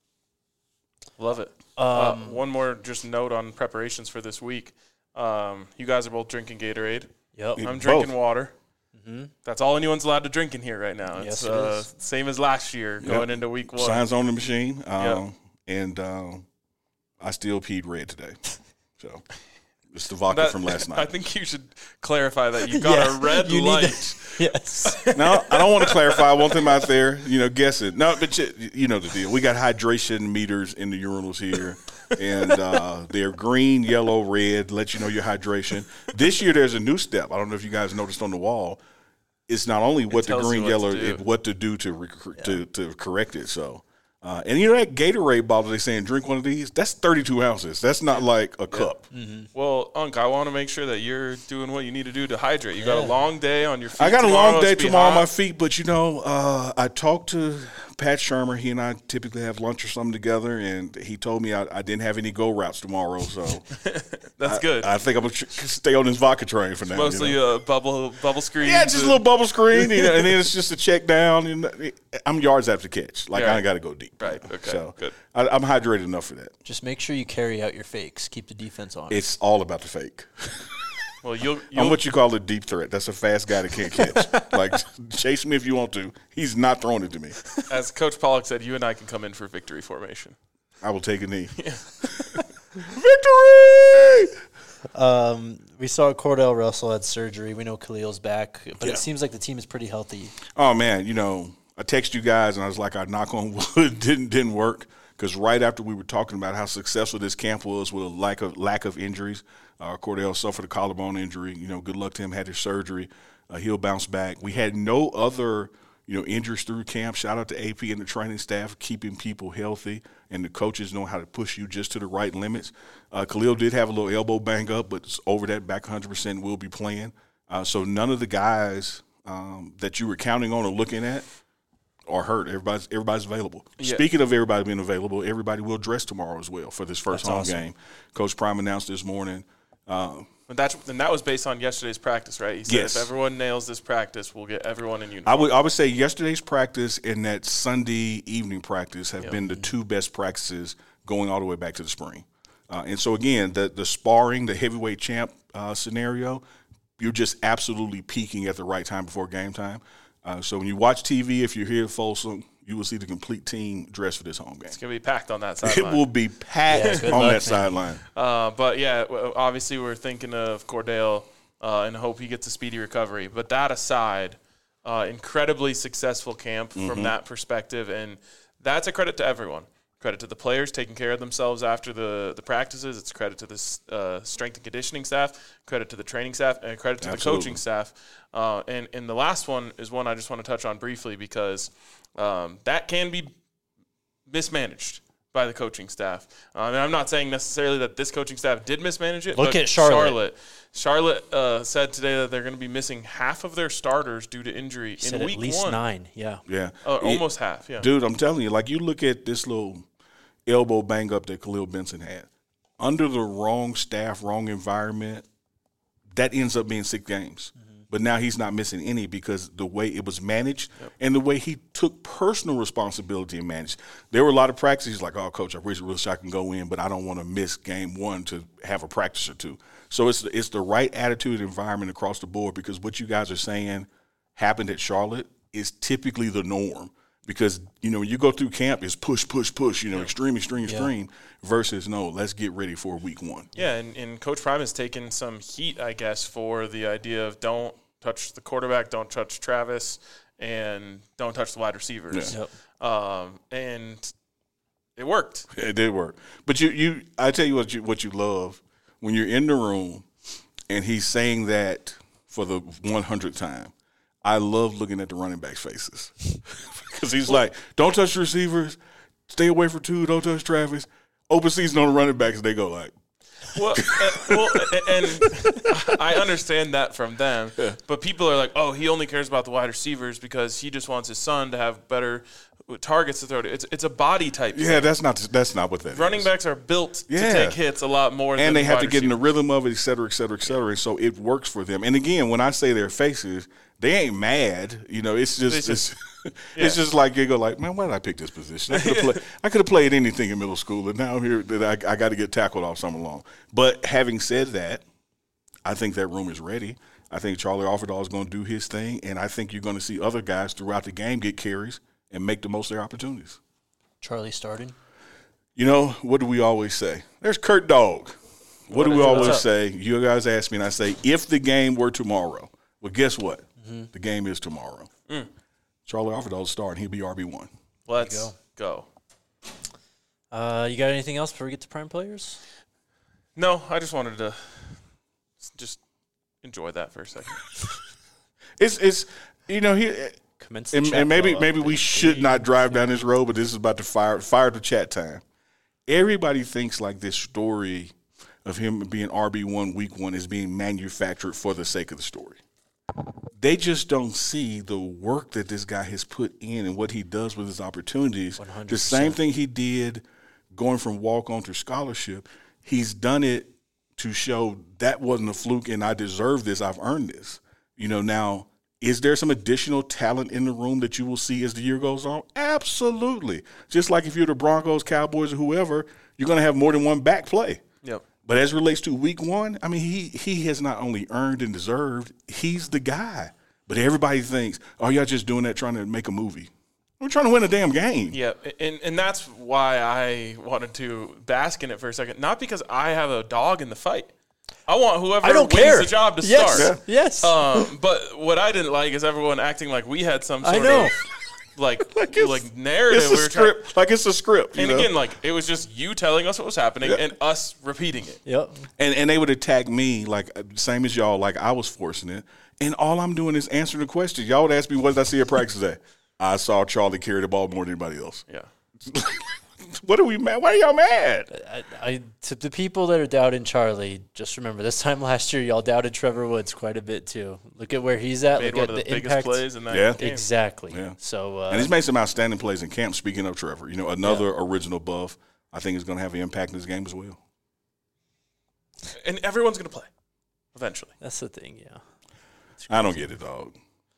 Love it. Um, uh, one more just note on preparations for this week. Um, you guys are both drinking Gatorade. Yep. I'm drinking both. water. Mm-hmm. That's all anyone's allowed to drink in here right now. It's yes, it uh, is. Same as last year going yep. into week one. Signs on the machine. Um, yep. And um, I still peed red today. So it's the vodka that, from last night. I think you should clarify that you got yeah, a red you light. To, yes. No, I don't want to clarify. I want them out there, you know, guessing. No, but you, you know the deal. We got hydration meters in the urinals here. And uh, they're green, yellow, red, let you know your hydration. This year there's a new step. I don't know if you guys noticed on the wall. It's not only what the green, what yellow, to it, what to do to, rec- yeah. to to correct it. So, uh, and you know that Gatorade bottle they saying drink one of these. That's thirty-two ounces. That's not like a cup. Yeah. Mm-hmm. Well, Unc, I want to make sure that you're doing what you need to do to hydrate. You yeah. got a long day on your feet. I got tomorrow. a long day It's tomorrow on hot. my feet, but you know, uh, I talked to Pat Shermer. He and I typically have lunch or something together, and he told me I, I didn't have any go routes tomorrow. So that's I, good. I think I'm gonna stay on this vodka train for now. Mostly you know? uh, bubble bubble screen. Yeah, just a little bubble screen, you know, and then it's just a check down. And I'm yards after catch. Like Yeah. I ain't got to go deep. Right. Okay. So Good. I, I'm hydrated enough for that. Just make sure you carry out your fakes. Keep the defense on. It's all about the fake. Well, you'll, you'll I'm what you call a deep threat. That's a fast guy that can't catch. Like, chase me if you want to. He's not throwing it to me. as Coach Pollock said, you and I can come in for victory formation. I will take a knee. Yeah. Victory! Um, we saw Cordell Russell had surgery. We know Khalil's back, but Yeah. it seems like the team is pretty healthy. Oh, man, you know, I text you guys, and I was like, I knock on wood, didn't didn't work. Because right after we were talking about how successful this camp was with a lack of lack of injuries, uh, Cordell suffered a collarbone injury. You know, good luck to him. Had his surgery. Uh, he'll bounce back. We had no other, you know, injuries through camp. Shout out to A P and the training staff keeping people healthy, and the coaches know how to push you just to the right limits. Uh, Khalil did have a little elbow bang up, but it's over that, back one hundred percent, will be playing. Uh, so none of the guys um, that you were counting on or looking at are hurt. Everybody's everybody's available. Yeah. Speaking of everybody being available, everybody will dress tomorrow as well for this first That's home awesome. game. Coach Prime announced this morning. Uh, And that's and that was based on yesterday's practice, right? He said Yes. if everyone nails this practice, we'll get everyone in I uniform. would I would say yesterday's practice and that Sunday evening practice have Yep. been the two best practices going all the way back to the spring. Uh, and so again, the the sparring, the heavyweight champ uh, scenario, you're just absolutely peaking at the right time before game time. Uh, so when you watch T V, if you're here at Folsom, you will see the complete team dressed for this home game. It's gonna be packed on that It sideline. will be packed Yeah, good on luck, that man. sideline. Uh, but yeah, w- obviously we're thinking of Cordell uh, and hope he gets a speedy recovery. But that aside, uh, incredibly successful camp Mm-hmm. from that perspective, and that's a credit to everyone. Credit to the players taking care of themselves after the, the practices. It's credit to the uh, strength and conditioning staff, credit to the training staff, and credit to Absolutely. the coaching staff. Uh, and, and the last one is one I just want to touch on briefly because um, that can be mismanaged by the coaching staff. Uh, and I'm not saying necessarily that this coaching staff did mismanage it. Look but at Charlotte. Charlotte, Charlotte uh, said today that they're going to be missing half of their starters due to injury Said in at week least one. nine. Yeah. Yeah. Uh, It- almost half, yeah. Dude, I'm telling you, like you look at this little elbow bang up that Khalil Benson had. Under the wrong staff, wrong environment, that ends up being six games. But now he's not missing any because the way it was managed and the way he took personal responsibility and managed. There were a lot of practices like, oh, coach, I wish, wish I can go in, but I don't want to miss game one to have a practice or two. So it's it's the right attitude and environment across the board because what you guys are saying happened at Charlotte is typically the norm. Because, you know, when you go through camp, it's push, push, push, you know, extreme, extreme, Yeah. extreme, versus, no, let's get ready for week one. Yeah, and, and Coach Prime has taken some heat, I guess, for the idea of don't touch the quarterback, don't touch Travis, and don't touch the wide receivers. Yep. Um, and it worked. It did work. But you, you, I tell you what you, what you love, when you're in the room and he's saying that for the one hundredth time, I love looking at the running backs' faces. Because he's like, don't touch the receivers, stay away from two, don't touch Travis. Open season on the running backs, they go like, Well, uh, well, and I understand that from them, but people are like, "Oh, he only cares about the wide receivers because he just wants his son to have better targets to throw to." It's it's a body type. yeah, thing. that's not that's not what that Running is. backs are built Yeah. to take hits a lot more, than And they have wide to get in the receivers. rhythm of it, et cetera, et cetera, et cetera. So it works for them. And again, when I say their faces, they ain't mad. You know, it's just It's it's, just- it's yeah. just like you go like, man, why did I pick this position? I could have played, I could have played anything in middle school, and now I'm here that I, I got to get tackled all summer long. But having said that, I think that room is ready. I think Charlie Offerdahl is going to do his thing, and I think you're going to see other guys throughout the game get carries and make the most of their opportunities. Charlie starting. You know, what do we always say? There's Kurt Dog. What, What do is we it? always What's up? say? You guys ask me, and I say, if the game were tomorrow, well, guess what? Mm-hmm. The game is tomorrow. Mm. Charlie Offerdahl is starting. He'll be R B one. Let's go. Uh, you got anything else before we get to prime players? No, I just wanted to just enjoy that for a second. It's, it's you know, he, Commence the and, chat and maybe blow up. maybe we should not drive down this road, but this is about to fire, fire the chat time. Everybody thinks like this story of him being R B one week one is being manufactured for the sake of the story. they just don't see the work that this guy has put in and what he does with his opportunities. one hundred The percent. same thing he did going from walk-on to scholarship, he's done it to show that wasn't a fluke and I deserve this, I've earned this. You know, now, is there some additional talent in the room that you will see as the year goes on? Absolutely. Just like if you're the Broncos, Cowboys, or whoever, you're going to have more than one back play. Yep. But as it relates to week one, I mean, he he has not only earned and deserved, he's the guy. But everybody thinks, oh, y'all just doing that trying to make a movie. We're trying to win a damn game. Yeah, and, and that's why I wanted to bask in it for a second. Not because I have a dog in the fight. I want whoever I don't wins care. the job to Yes. start. Yeah. Yes. Um, but what I didn't like is everyone acting like we had some I sort know. of like Like it's- like narrative. It's we a were trying, script. Like it's a script. You and know? again, like it was just you telling us what was happening Yeah. and us repeating it. Yep. And and they would attack me like uh, same as y'all, like I was forcing it. And all I'm doing is answering the question. Y'all would ask me, what did I see at practice today? I saw Charlie carry the ball more than anybody else. Yeah. What are we mad? Why are y'all mad? I, I to the people that are doubting Charlie, just remember this time last year y'all doubted Trevor Woods quite a bit too. Look at where he's at. Made Look one of at the, the, biggest impact. plays in that Yeah. game. Exactly. Yeah. So uh, And he's made some outstanding plays in camp. Speaking of Trevor, you know, another original buff, I think is going to have an impact in this game as well. And everyone's gonna play eventually. that's the thing. Yeah. I don't get it, dog.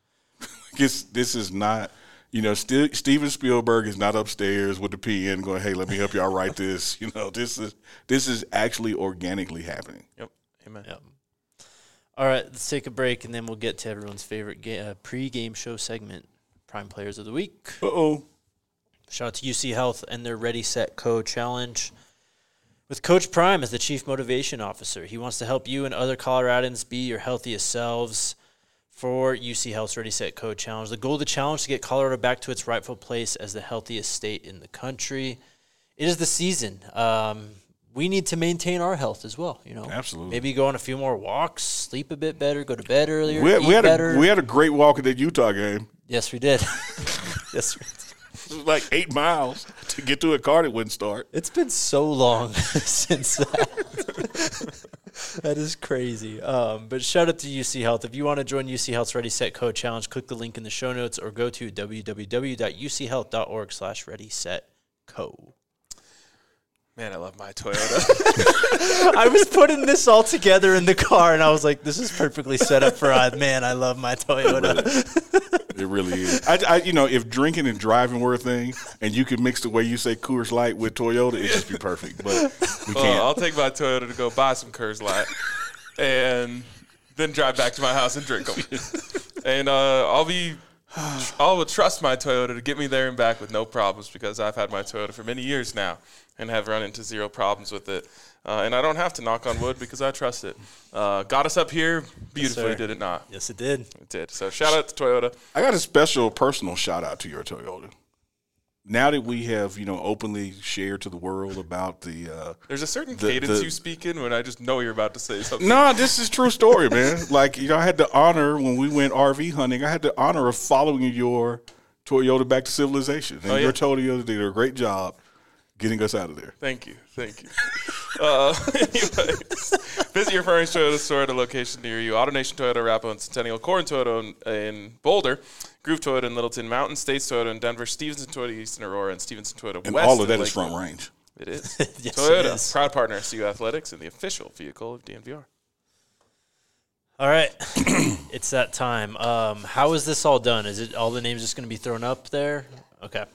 This this is not, you know, St- Steven Spielberg is not upstairs with the P N going, hey, let me help y'all write this. You know, this is this is actually organically happening. Yep. Amen. Yep. All right, let's take a break and then we'll get to everyone's favorite ga- uh, pre-game show segment, Prime Players of the Week. Uh-oh. Shout out to U C Health and their Ready, Set, Co challenge. With Coach Prime as the Chief Motivation Officer, he wants to help you and other Coloradans be your healthiest selves for U C Health's Ready, Set, Co challenge. The goal of the challenge is to get Colorado back to its rightful place as the healthiest state in the country. It is the season. Um, we need to maintain our health as well. You know, Absolutely. Maybe go on a few more walks, sleep a bit better, go to bed earlier, We had, eat we, had better. a, we had a great walk at that Utah game. yes, we did. yes, we did. It was like eight miles to get to a car that wouldn't start. It's been so long since that. That is crazy. Um, but shout out to U C Health. If you want to join U C Health's Ready, Set, Co challenge, click the link in the show notes or go to w w w dot u c health dot org slash ready set co. Man, I love my Toyota. I was putting this all together in the car, and I was like, this is perfectly set up for, uh, man, I love my Toyota. It really is. I, I, you know, if drinking and driving were a thing, and you could mix the way you say Coors Light with Toyota, it'd just be perfect. But we Well, can't. I'll take my Toyota to go buy some Coors Light and then drive back to my house and drink them. And uh, I'll be, I'll trust my Toyota to get me there and back with no problems because I've had my Toyota for many years now and have run into zero problems with it. Uh, and I don't have to knock on wood because I trust it. Uh, got us up here beautifully, sir. did it not? Yes, it did. It did. So shout out to Toyota. I got a special personal shout out to your Toyota. Now that we have, you know, openly shared to the world about the uh, There's a certain The- cadence the- you speak in when I just know you're about to say something. No, this is true story, man. Like, you know, I had the honor when we went R V hunting, I had the honor of following your Toyota back to civilization. And Oh, yeah. your Toyota did a great job getting us out of there. Thank you. Thank you. uh, anyways, visit your Furnish Toyota store at a location near you. AutoNation Toyota, Arapahoe, and Centennial. Corn Toyota in, in Boulder. Groove Toyota in Littleton. Mountain States Toyota in Denver. Stevenson Toyota East in Aurora. And Stevenson Toyota And West all of in that is Lakeland. front range. It is. Yes, Toyota, it is. proud partner of C U Athletics and the official vehicle of D N V R. All right. It's that time. Um, how is this all done? Is it all the names just going to be thrown up there? Okay.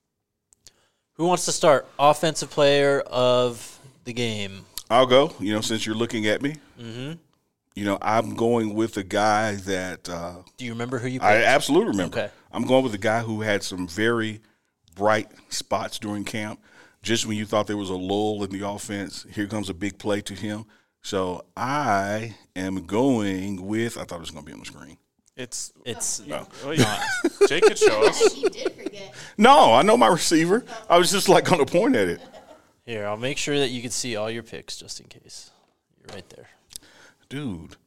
Who wants to start? Offensive player of the game. I'll go, you know, since you're looking at me. Mm-hmm. You know, I'm going with a guy that uh, Do you remember who you picked? I absolutely remember. Okay. I'm going with a guy who had some very bright spots during camp. Just when you thought there was a lull in the offense, here comes a big play to him. So I am going with, I thought it was going to be on the screen. It's. It's No. Oh, yeah. Jake could show us. You did forget. No, I know my receiver. I was just like going to point at it. here. I'll make sure that you can see all your picks just in case. You're right there. Dude,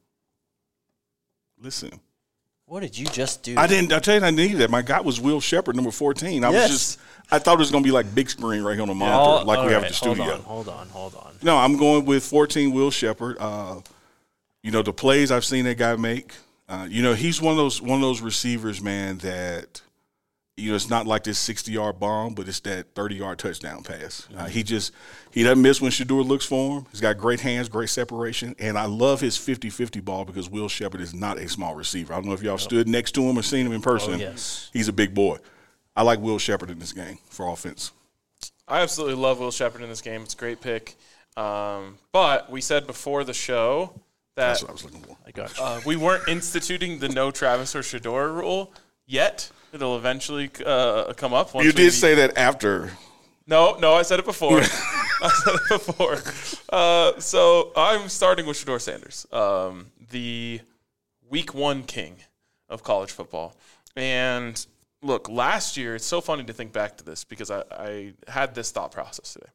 listen. What did you just do? I didn't, I tell you, I needed that. My guy was Will Shepard, number fourteen. I Yes. was just, I thought it was going to be like big screen right here on the monitor, All- like all we have right, at the studio. Hold on, hold on, hold on. No, I'm going with fourteen Will Shepard. Uh, you know, the plays I've seen that guy make, Uh, you know, he's one of those one of those receivers, man, that you know it's not like this sixty-yard bomb, but it's that thirty-yard touchdown pass. Uh, he just he doesn't miss when Shedeur looks for him. He's got great hands, great separation, and I love his fifty-fifty ball because Will Sheppard is not a small receiver. I don't know if y'all yep. stood next to him or seen him in person. Oh, yes. He's a big boy. I like Will Sheppard in this game for offense. I absolutely love Will Sheppard in this game. It's a great pick. Um, but we said before the show that That's what I was looking for. I got you. Uh, we weren't instituting the no Travis or Shedeur rule yet. It'll eventually uh, come up. Once You we did say that after. No, no, I said it before. I said it before. Uh, so I'm starting with Shedeur Sanders, um, the week one king of college football. And look, last year, it's so funny to think back to this because I, I had this thought process today.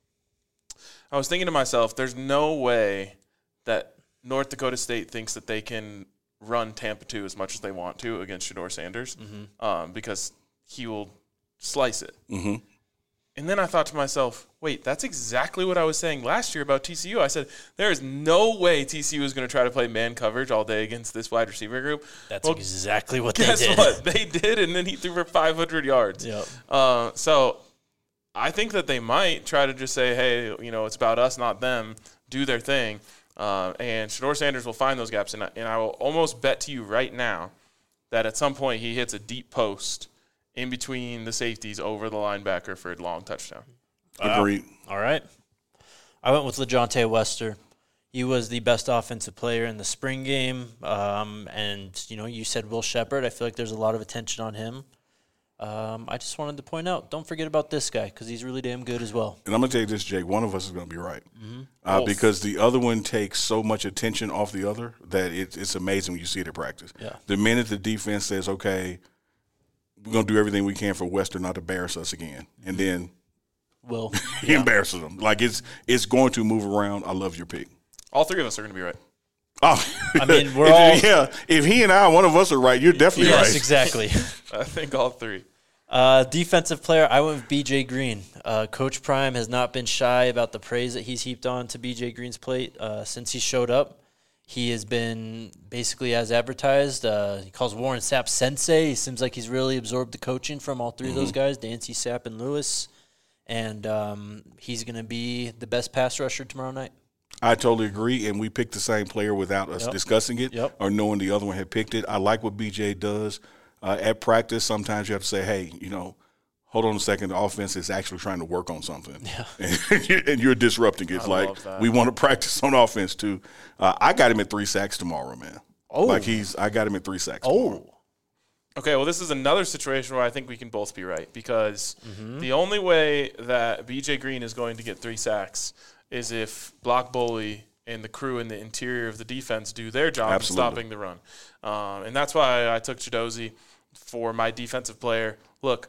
I was thinking to myself, there's no way that North Dakota State thinks that they can run Tampa two as much as they want to against Shedeur Sanders mm-hmm. um, because he will slice it. Mm-hmm. And then I thought to myself, wait, that's exactly what I was saying last year about T C U. I said, there is no way T C U is going to try to play man coverage all day against this wide receiver group. That's well, exactly what they guess did. Guess what? They did, and then he threw for five hundred yards. Yep. Uh, so I think that they might try to just say, hey, you know, it's about us, not them, do their thing. Uh, and Shedeur Sanders will find those gaps. And I, and I will almost bet to you right now that at some point he hits a deep post in between the safeties over the linebacker for a long touchdown. Agreed. Uh, all right. I went with LeJontay Wester. He was the best offensive player in the spring game. Um, and, you know, you said Will Sheppard. I feel like there's a lot of attention on him. Um, I just wanted to point out, don't forget about this guy because he's really damn good as well. And I'm going to tell you this, Jake, one of us is going to be right. Mm-hmm. Uh, oh. Because the other one takes so much attention off the other that it, it's amazing when you see it at practice. Yeah. The minute the defense says, okay, we're going to do everything we can for Wester not to embarrass us again. And then Will he yeah. embarrasses them. Like, it's it's going to move around. I love your pick. All three of us are going to be right. Oh, I mean, we're if, all – yeah, if he and I, one of us are right, you're definitely yes, right. Yes, exactly. I think all three. Uh, defensive player, I went with B J Green. Uh, Coach Prime has not been shy about the praise that he's heaped on to B J Green's plate uh, since he showed up. He has been basically as advertised. Uh, he calls Warren Sapp sensei. He seems like he's really absorbed the coaching from all three mm-hmm. of those guys, Dancy, Sapp, and Lewis. And um, he's going to be the best pass rusher tomorrow night. I totally agree, and we picked the same player without us yep. discussing it yep. or knowing the other one had picked it. I like what B J does. Uh, at practice, sometimes you have to say, hey, you know, hold on a second. The offense is actually trying to work on something. Yeah. And, you're, and you're disrupting it. It's I like, we want to practice on offense, too. Uh, I got him at three sacks tomorrow, man. Oh. Like, he's – I got him at three sacks Oh. tomorrow. Okay, well, this is another situation where I think we can both be right because mm-hmm. the only way that B J Green is going to get three sacks is if Block Bully and the crew in the interior of the defense do their job Absolutely. in stopping the run. Um, and that's why I took Chidozie for my defensive player. Look,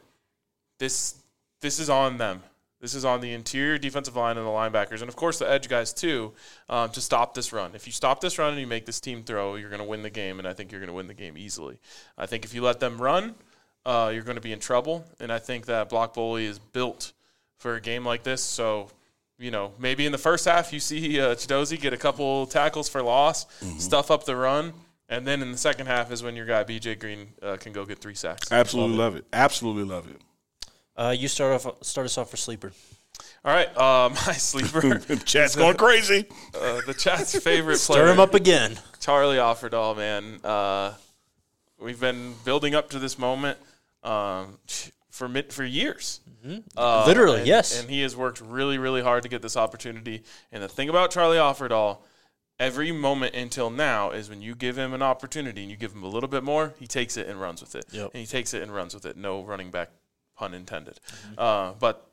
this this is on them. This is on the interior defensive line and the linebackers, and, of course, the edge guys, too, um, to stop this run. If you stop this run and you make this team throw, you're going to win the game, and I think you're going to win the game easily. I think if you let them run, uh, you're going to be in trouble, and I think that Block Bully is built for a game like this. So, you know, maybe in the first half you see uh, Chidozie get a couple tackles for loss, mm-hmm. stuff up the run, and then in the second half is when your guy B J Green uh, can go get three sacks. Absolutely love it. love it. Absolutely love it. Uh, you start off. Start us off for sleeper. All right, uh, my sleeper. Chat's going crazy. Uh, the chat's favorite Stir player. him up again. Charlie Offerdahl, man. Uh, we've been building up to this moment um, for mid, for years. Mm-hmm. Uh, Literally, and, yes. And he has worked really, really hard to get this opportunity. And the thing about Charlie Offerdahl, every moment until now is when you give him an opportunity and you give him a little bit more, he takes it and runs with it. Yep. And he takes it and runs with it. No running back, pun intended. Mm-hmm. Uh, but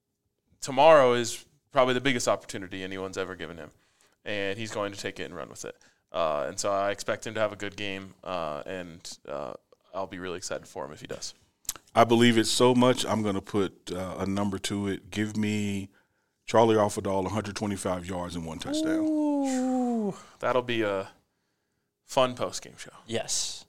tomorrow is probably the biggest opportunity anyone's ever given him, and he's going to take it and run with it. Uh, and so I expect him to have a good game, uh, and uh, I'll be really excited for him if he does. I believe it so much, I'm going to put uh, a number to it. Give me Charlie Offerdahl one hundred twenty-five yards and one touchdown. Ooh. That'll be a fun post-game show. Yes.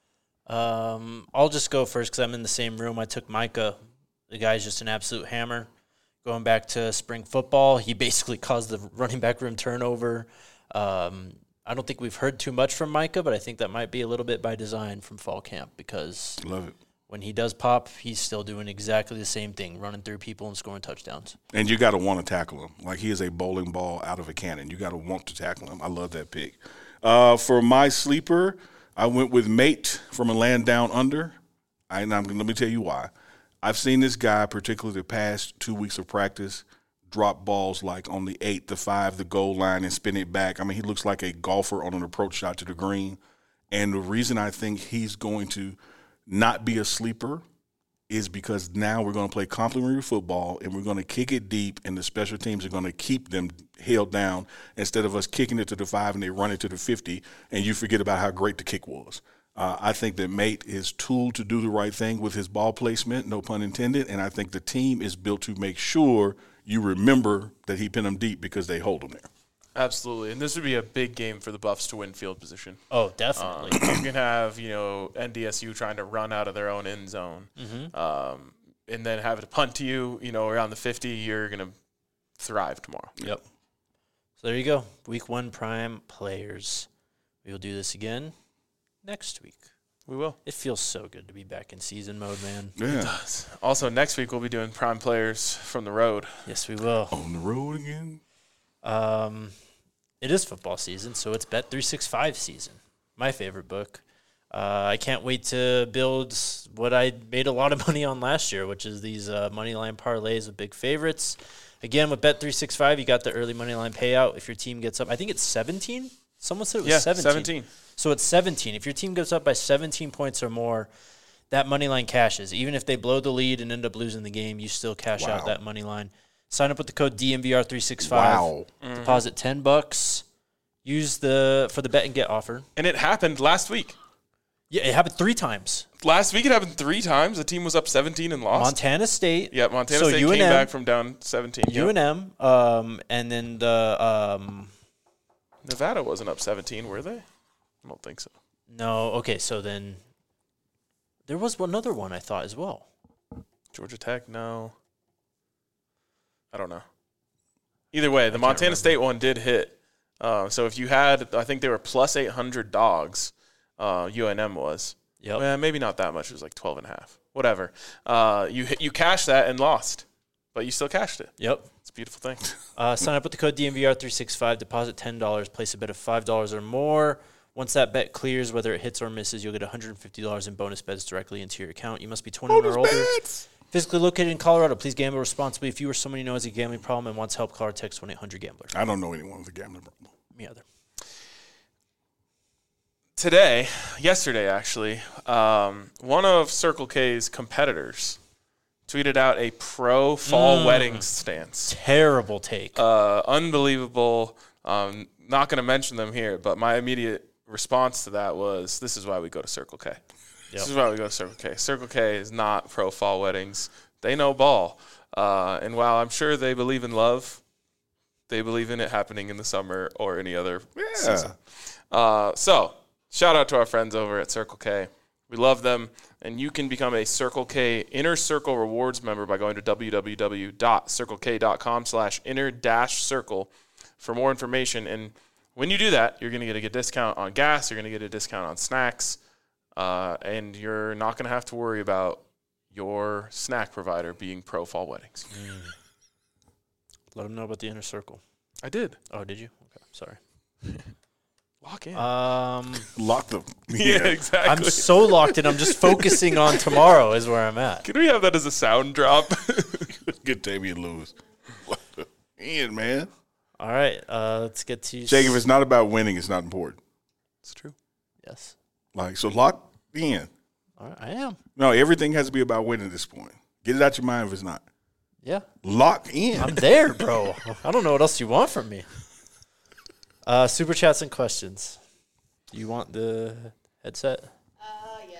Um, I'll just go first because I'm in the same room. I took Micah. The guy's just an absolute hammer. Going back to spring football, he basically caused the running back room turnover. Um, I don't think we've heard too much from Micah, but I think that might be a little bit by design from fall camp because Love it. when he does pop, he's still doing exactly the same thing, running through people and scoring touchdowns. And you got to want to tackle him. Like he is a bowling ball out of a cannon. You got to want to tackle him. I love that pick. Uh, for my sleeper, I went with Mate from a Land Down Under. I, and I'm, let me tell you why. I've seen this guy, particularly the past two weeks of practice, drop balls like on the eight, the five, the goal line, and spin it back. I mean, he looks like a golfer on an approach shot to the green. And the reason I think he's going to not be a sleeper is because now we're going to play complementary football and we're going to kick it deep, and the special teams are going to keep them held down instead of us kicking it to the five and they run it to the fifty, and you forget about how great the kick was. Uh, I think that Mate is tooled to do the right thing with his ball placement, no pun intended, and I think the team is built to make sure you remember that he pinned them deep because they hold them there. Absolutely, and this would be a big game for the Buffs to win field position. Oh, definitely. Um, you can have, you know, N D S U trying to run out of their own end zone, Mm-hmm. um, and then have it punt to you, you know, around the fifty. You're going to thrive tomorrow. Yep. So there you go. Week one prime players. We will do this again next week. We will. It feels so good to be back in season mode, man. Yeah. Also, next week we'll be doing prime players from the road. Yes, we will. On the road again. Um, it is football season, so it's Bet three sixty-five season. My favorite book. Uh, I can't wait to build what I made a lot of money on last year, which is these uh, moneyline parlays with big favorites. Again, with Bet three sixty-five, you got the early moneyline payout if your team gets up. I think it's seventeen. Someone said it was Yeah, seventeen. seventeen. So it's seventeen. If your team goes up by seventeen points or more, that money line cashes. Even if they blow the lead and end up losing the game, you still cash Wow. out that money line. Sign up with the code D M V R three sixty-five. Wow. Deposit ten bucks. Use the for the bet and get offer. And it happened last week. Yeah, it happened three times. Last week it happened three times. The team was up seventeen and lost. Montana State. Yeah, Montana So State U N came M back from down seventeen. Yep. U N M, um, and then the um, Nevada wasn't up seventeen, were they? I don't think so. no. Okay, so then there was another one I thought as well. Georgia Tech, no. I don't know. Either way, the can't Montana remember. State one did hit. Uh, so if you had, I think they were plus eight hundred dogs, uh, U N M was. Yep. Well, maybe not that much. It was like twelve and a half. Whatever. Uh, you hit, you cashed that and lost, but you still cashed it. Yep. It's a beautiful thing. Uh, sign up with the code D M V R three sixty-five. Deposit ten dollars. Place a bet of five dollars or more. Once that bet clears, whether it hits or misses, you'll get one hundred fifty dollars in bonus bets directly into your account. You must be twenty-one or older. Physically located in Colorado. Please gamble responsibly. If you or someone you know has a gambling problem and wants help, call or text one eight hundred gambler. I don't know anyone with a gambling problem. Me either. Today, yesterday actually, um, one of Circle K's competitors tweeted out a pro fall Mm. wedding stance. Terrible take. Uh, unbelievable. Um, not going to mention them here, but my immediate response to that was, this is why we go to Circle K. This Yep. is why we go to Circle K. Circle K is not pro fall weddings. They know ball. Uh, and while I'm sure they believe in love, they believe in it happening in the summer or any other season. Uh, so, shout out to our friends over at Circle K. We love them. And you can become a Circle K Inner Circle Rewards member by going to www.circlek.com slash inner dash circle for more information. And when you do that, you're going to get a good discount on gas. You're going to get a discount on snacks. Uh, and you're not going to have to worry about your snack provider being pro fall weddings. Let them know about the inner circle. I did. Oh, did you? Okay, sorry. Lock in. Um, Lock them. yeah, exactly. I'm so locked in. I'm just focusing on tomorrow is where I'm at. Can we have that as a sound drop? Get Damian Lewis. Ian, man. All right, uh, let's get to Jake, if it's not about winning, it's not important. It's true. yes. Like, so lock in. All right, I am. No, everything has to be about winning at this point. Get it out your mind if it's not. Yeah, Lock in. I'm there, bro. I don't know what else you want from me. Uh, super chats and questions. Do you want the headset? Uh, yeah.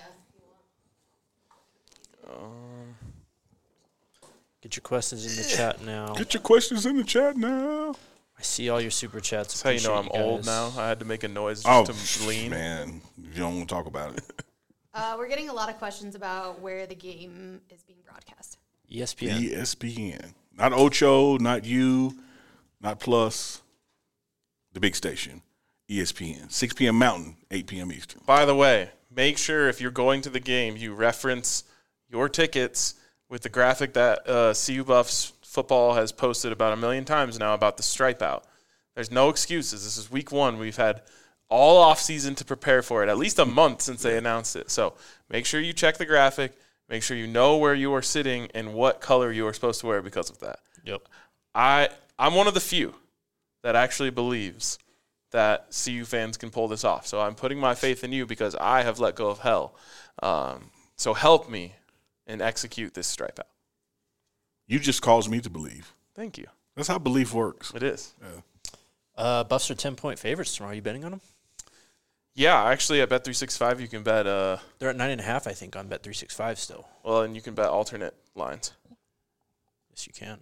Um, Get your questions in the chat now. Get your questions in the chat now. I see all your super chats. that's how you know I'm Appreciate old guys. now. I had to make a noise Oh, just to lean. man. You don't want to talk about it. Uh, we're getting a lot of questions about where the game is being broadcast. E S P N. E S P N. Not Ocho, not you, not Plus. The big station. E S P N, six p.m. Mountain, eight p.m. Eastern. By the way, make sure if you're going to the game, you reference your tickets with the graphic that uh, C U Buffs football has posted about a million times now about the stripe out. There's no excuses. This is week one. We've had all off season to prepare for it, at least a month since they announced it. So make sure you check the graphic. Make sure you know where you are sitting and what color you are supposed to wear because of that. Yep. I, I'm one of the few that actually believes that C U fans can pull this off. So I'm putting my faith in you because I have let go of hell. Um, so help me and execute this stripe out. You just caused me to believe. Thank you. That's how belief works. It is. Yeah. Uh, Buffs are ten-point favorites tomorrow. Are you betting on them? Yeah, actually at Bet three sixty-five you can bet uh They're at nine and a half, I think, on Bet three sixty-five still. well, and you can bet alternate lines. Yes, you can.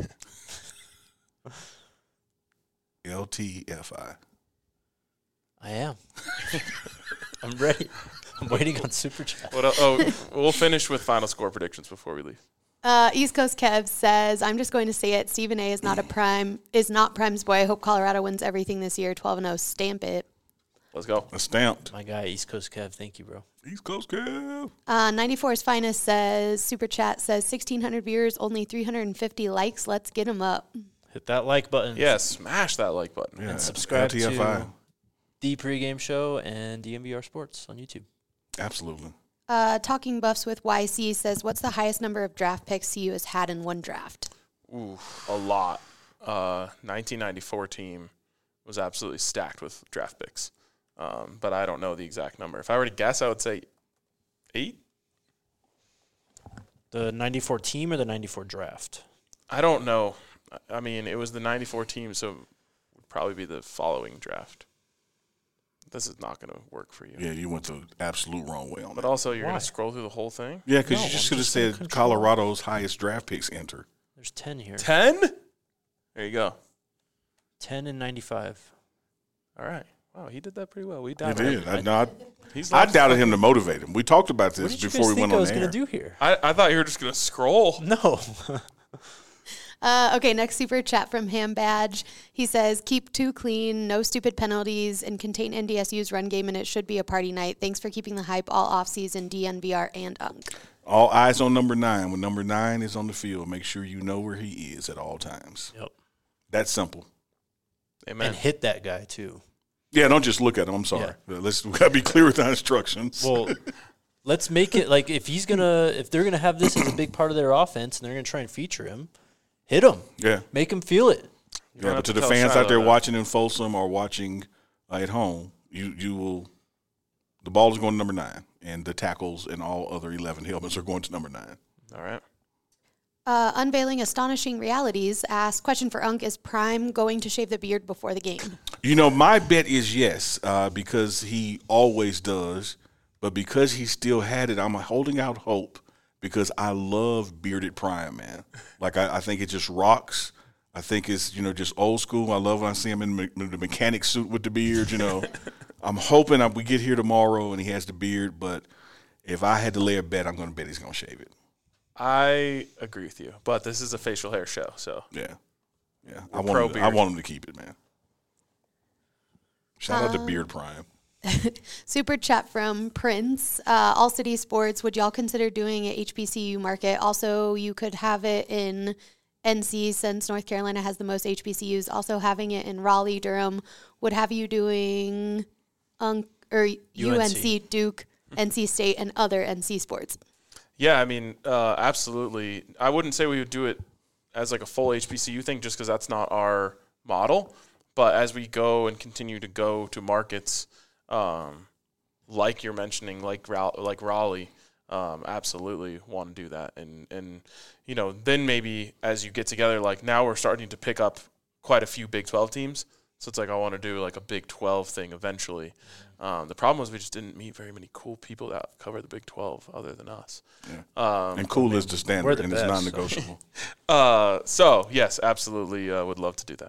L T F I. I am. I'm ready. I'm waiting on Super Chat. What el- oh, we'll finish with final score predictions before we leave. Uh, East Coast Kev says, I'm just going to say it. Stephen A. is not a prime, is not Prime's boy. I hope Colorado wins everything this year. twelve and oh, stamp it. Let's go. A stamped. My guy, East Coast Kev. Thank you, bro. East Coast Kev. Uh, ninety-four's Finest says, Super Chat says, sixteen hundred viewers, only three hundred fifty likes. Let's get them up. Hit that like button. Yeah, smash that like button. Yeah, And subscribe L T F I. to The Pregame Show and D M V R Sports on YouTube. Absolutely. Uh, Talking Buffs with Y C says, what's the highest number of draft picks C U has had in one draft? Ooh, a lot. Uh, nineteen ninety-four team was absolutely stacked with draft picks. Um, but I don't know the exact number. If I were to guess, I would say eight. The ninety-four team or the ninety-four draft? I don't know. I mean, it was the ninety-four team, so it would probably be the following draft. This is not going to work for you. Yeah, you went the absolute wrong way on But that. also, you're going Why? to scroll through the whole thing? Yeah, because No, you just I'm could have just in said control. Colorado's highest draft picks enter. There's ten here. ten? There you go. ten and ninety-five. All right. Wow, he did that pretty well. We He doubted did. him. I, no, I, He's I not- doubted him to motivate him. We talked about What this did you before guys we think went I on was the going air. to do here? I, I thought you were just going to scroll. No. Uh, okay, next super chat from Ham Badge. He says, keep two clean, no stupid penalties, and contain N D S U's run game, and it should be a party night. Thanks for keeping the hype all offseason, D N V R and U N C. All eyes on number nine. When number nine is on the field, make sure you know where he is at all times. Yep. That's simple. Amen. And hit that guy, too. Yeah, don't just look at him. I'm sorry. Uh, Let's we gotta be clear with our instructions. Well, let's make it like if he's gonna if they're gonna have this as a big part of their offense and they're gonna try and feature him, hit him, yeah, make him feel it. don't yeah. have But to to the tell fans Shiloh out there that. watching in Folsom or watching uh, at home, you you will. The ball is going to number nine, and the tackles and all other eleven helmets are going to number nine. All right. Uh, Unveiling Astonishing Realities asks, question for Unk, is Prime going to shave the beard before the game? You know, my bet is yes, uh, because he always does. But because he still had it, I'm holding out hope because I love bearded Prime, man. Like, I, I think it just rocks. I think it's, you know, just old school. I love when I see him in me- the mechanic suit with the beard, you know. I'm hoping I, we get here tomorrow and he has the beard. But if I had to lay a bet, I'm going to bet he's going to shave it. I agree with you, but this is a facial hair show, so Yeah. Yeah. I We're want, him to, I pro-beard. want him to keep it, man. Shout out to Beard Prime. Super chat from Prince. Uh, All City Sports, would y'all consider doing an H B C U market? Also, you could have it in N C since North Carolina has the most H B C Us. Also, having it in Raleigh, Durham would have you doing um, or U N C, Duke, N C State, and other N C sports. yeah, I mean, uh, absolutely. I wouldn't say we would do it as like a full H B C U thing just because that's not our model. But as we go and continue to go to markets, um, like you're mentioning, like Ra- like Raleigh, um, absolutely want to do that. And, and, you know, then maybe as you get together, like now we're starting to pick up quite a few Big twelve teams. So it's like I want to do like a Big twelve thing eventually. Um, the problem was we just didn't meet very many cool people that cover the Big twelve other than us. Yeah. Um, And cool is the standard, we're the and best, it's so. non-negotiable. uh, so, yes, absolutely uh, would love to do that.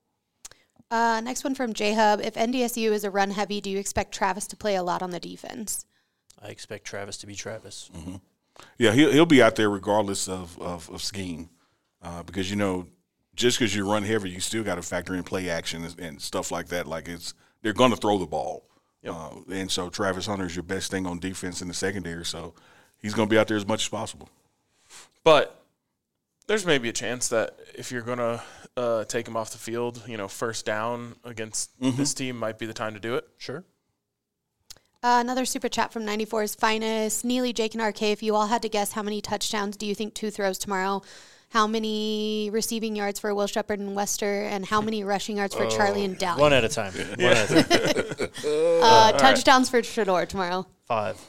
Uh, next one from J-Hub. If N D S U is a run heavy, do you expect Travis to play a lot on the defense? I expect Travis to be Travis. Mm-hmm. Yeah, he'll, he'll be out there regardless of, of, of scheme uh, because, you know, just because you run heavy, you still got to factor in play action and, and stuff like that. Like it's they're going to throw the ball. Yep. Uh, and so Travis Hunter is your best thing on defense in the secondary. So he's going to be out there as much as possible. But there's maybe a chance that if you're going to uh, take him off the field, you know, first down against Mm-hmm. this team might be the time to do it. Sure. Uh, another super chat from ninety-four's Finest. Neely, Jake, and R K, if you all had to guess how many touchdowns do you think two throws tomorrow? How many receiving yards for Will Shepard and Wester? And how many rushing yards for Charlie and Dowling? One at a time. One at a time. uh, touchdowns for Shador tomorrow. Five.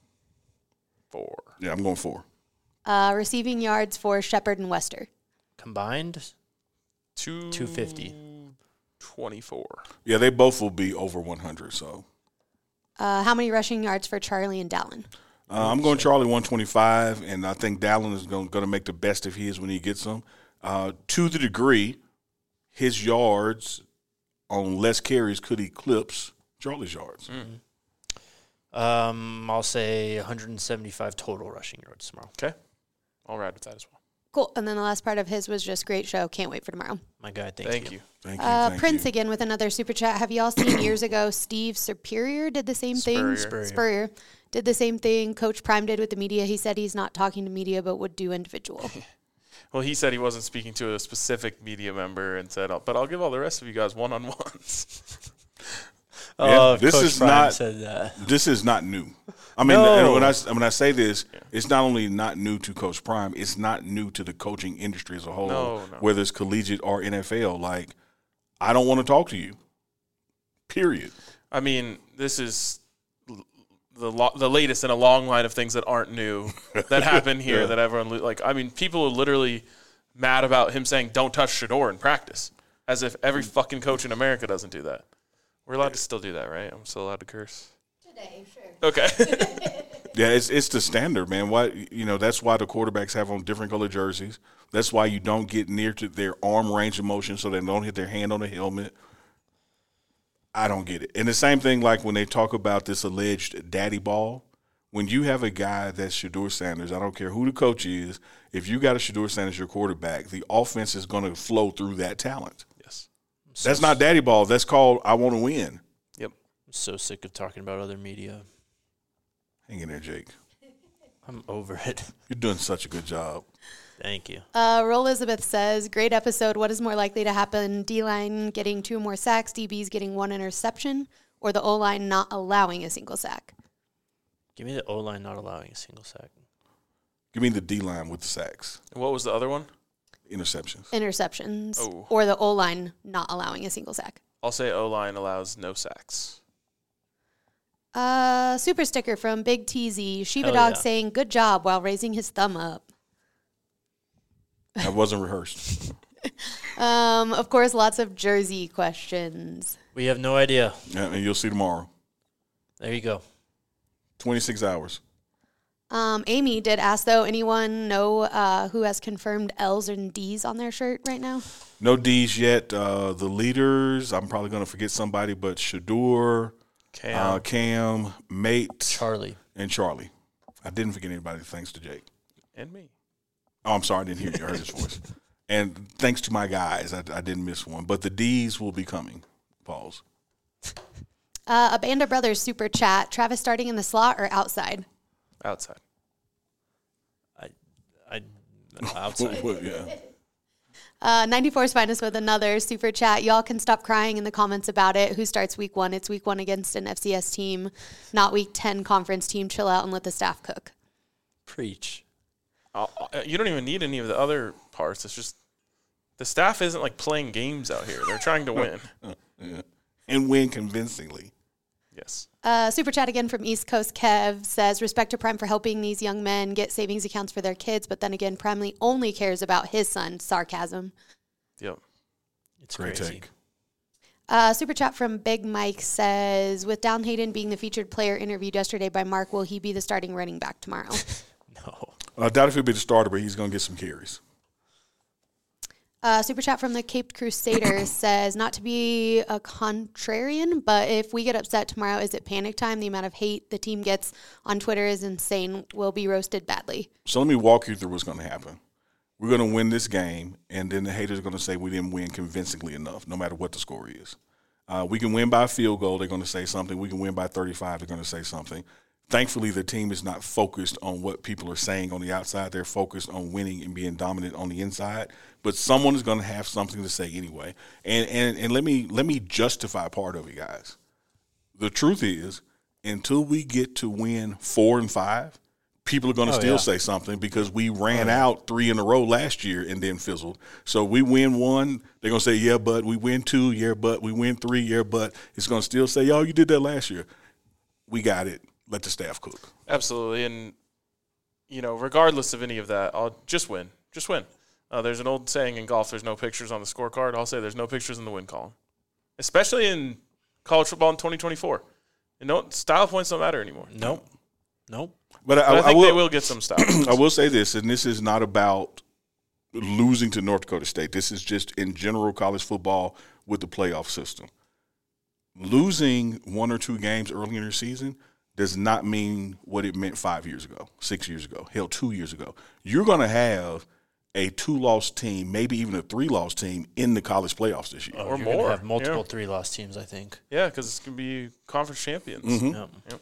Four. Yeah, I'm going four. Uh, receiving yards for Shepard and Wester. Combined, Two. two fifty. Twenty-four. Yeah, they both will be over one hundred. So Uh, how many rushing yards for Charlie and Dowling? uh, I'm going Charlie one twenty-five, and I think Dallin is going, going to make the best of his when he gets them. Uh, to the degree, his yards on less carries could eclipse Charlie's yards. Mm. Um, I'll say one hundred seventy-five total rushing yards tomorrow. Okay. I'll ride with that as well. Cool. And then the last part of his was just great show. Can't wait for tomorrow. My guy, thank, Thank you. you. Thank you. Uh, thank Prince you. again with another super chat. Have you all seen years ago Steve Superior did the same thing? Spurrier. Spurrier did the same thing Coach Prime did with the media. He said he's not talking to media but would do individual. Well, he said he wasn't speaking to a specific media member and said, but I'll give all the rest of you guys one-on-ones. Oh, this Coach is Prime not- said that. This is not new. I mean, No. when I when I say this, it's not only not new to Coach Prime, it's not new to the coaching industry as a whole, No, no. whether it's collegiate or N F L. Like, I don't want to talk to you. Period. I mean, this is l- the lo- the latest in a long line of things that aren't new that happen here Yeah. that everyone lo- like. I mean, people are literally mad about him saying "Don't touch Shador" in practice, as if every fucking coach in America doesn't do that. We're allowed to still do that, right? I'm still allowed to curse. Today, sure. Okay. Yeah, it's it's the standard, man. Why you know that's why the quarterbacks have on different color jerseys. That's why you don't get near to their arm range of motion so they don't hit their hand on the helmet. I don't get it. And the same thing like when they talk about this alleged daddy ball. When you have a guy that's Shador Sanders, I don't care who the coach is, if you got a Shador Sanders your quarterback, the offense is going to flow through that talent. Yes. That's not daddy ball. That's called I want to win. Yep. I'm so sick of talking about other media. Hang in there, Jake. I'm over it. You're doing such a good job. Thank you. Uh, Roll Elizabeth says, great episode. What is more likely to happen? D-line getting two more sacks, D Bs getting one interception, or the O-line not allowing a single sack? Give me the O-line not allowing a single sack. Give me the D line with the sacks, And what was the other one? interceptions. Interceptions, Oh. or the O-line not allowing a single sack. I'll say O-line allows no sacks. Uh, super sticker from Big T Z. Shiba Hell Dog yeah. saying, good job, while raising his thumb up. That wasn't rehearsed. Um, of course, lots of jersey questions. We have no idea. Yeah, and you'll see tomorrow. There you go. twenty-six hours. Um, Amy did ask, though, anyone know uh, who has confirmed L's and D's on their shirt right now? No D's yet. Uh, the leaders, I'm probably going to forget somebody, but Shador, Cam. uh, Cam, Mate, Charlie. and Charlie. I didn't forget anybody thanks to Jake. and me. Oh, I'm sorry, I didn't hear you. I heard his voice. And thanks to my guys, I, I didn't miss one. But the D's will be coming. Pause. Uh, a Band of Brothers super chat. Travis starting in the slot or outside? Outside. I, I, outside. Well, yeah. Uh, ninety-four's Finest with another super chat. Y'all can stop crying in the comments about it. Who starts week one? It's week one against an F C S team, not week ten conference team. Chill out and let the staff cook. Preach. Uh, uh, you don't even need any of the other parts. It's just the staff isn't like playing games out here. They're trying to win. Yeah. And win convincingly. Yes. Uh, super chat again from East Coast Kev says, respect to Prime for helping these young men get savings accounts for their kids, but then again, Primely only cares about his son. Sarcasm. Yep. It's Great crazy. take. Uh, super chat from Big Mike says, with Down Hayden being the featured player interviewed yesterday by Mark, will he be the starting running back tomorrow? No. I doubt if he'll be the starter, but he's going to get some carries. Uh, super chat from the Caped Crusader says, not to be a contrarian, but if we get upset tomorrow, is it panic time? The amount of hate the team gets on Twitter is insane. We'll be roasted badly. So let me walk you through what's going to happen. We're going to win this game, and then the haters are going to say we didn't win convincingly enough, no matter what the score is. Uh, we can win by a field goal, they're going to say something. We can win by thirty-five, they're going to say something. Thankfully, the team is not focused on what people are saying on the outside. They're focused on winning and being dominant on the inside. But someone is going to have something to say anyway. And and and let me let me justify part of it, guys. The truth is, until we get to win four and five, people are going to oh, still yeah. say something because we ran oh, yeah. out three in a row last year and then fizzled. So we win one, they're going to say, yeah, but we win two, yeah, but we win three, yeah, but it's going to still say, yo, you did that last year. We got it. Let the staff cook. Absolutely. And, you know, regardless of any of that, I'll just win. Just win. Uh, there's an old saying in golf, there's no pictures on the scorecard. I'll say there's no pictures in the win column, especially in college football in twenty twenty-four. And no, style points don't matter anymore. Nope. Nope. But, but I, I think I will, they will get some style points. I will say this, and this is not about losing to North Dakota State. This is just in general college football with the playoff system. Losing one or two games early in the season does not mean what it meant five years ago, six years ago, hell, two years ago. You're going to have a two-loss team, maybe even a three-loss team in the college playoffs this year. Oh, or you're more. Have multiple yeah. three-loss teams, I think. Yeah, because it's going to be conference champions. Mm-hmm. Yep. Yep.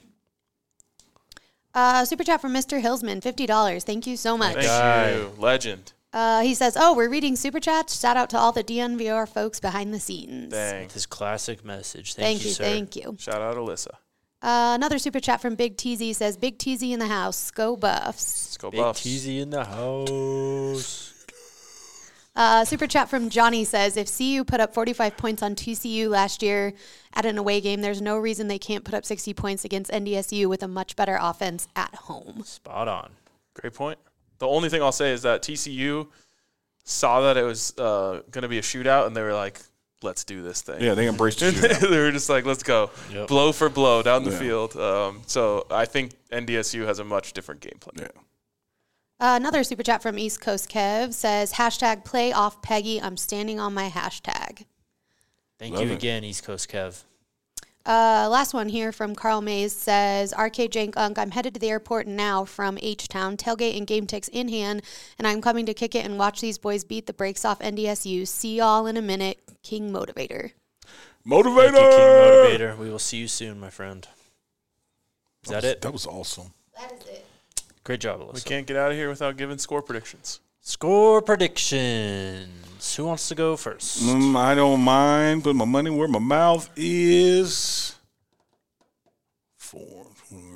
Uh, super chat from Mister Hillsman, fifty dollars. Thank you so much. Thank Guy. you. Legend. Uh, he says, oh, we're reading super chats. Shout out to all the D N V R folks behind the scenes. Dang. With his classic message. Thank, Thank you, you, sir. thank you. Shout out Alyssa. Uh, another super chat from Big T Z says, Big T Z in the house. Go Buffs. Let's go Big Buffs. T Z in the house. Uh, super chat from Johnny says, if C U put up forty-five points on T C U last year at an away game, there's no reason they can't put up sixty points against N D S U with a much better offense at home. Spot on. Great point. The only thing I'll say is that T C U saw that it was uh, going to be a shootout, and they were like, let's do this thing. Yeah, they embraced the shootout. They were just like, let's go. Yep. Blow for blow down the Yeah. field. Um, so I think N D S U has a much different game plan. Yeah. Uh, another super chat from East Coast Kev says, hashtag play off Peggy. I'm standing on my hashtag. Thank Love you it. again, East Coast Kev. Uh, last one here from Carl Mays says, R K Jank Unk, I'm headed to the airport now from H-Town, tailgate and game ticks in hand, and I'm coming to kick it and watch these boys beat the brakes off N D S U. See y'all in a minute. King Motivator. Motivator! Thank you, King Motivator. We will see you soon, my friend. Is that, was, it? That was awesome. That is it. Great job, Alyssa. We can't get out of here without giving score predictions. Score predictions. Who wants to go first? Mm, I don't mind putting my money where my mouth is. Four.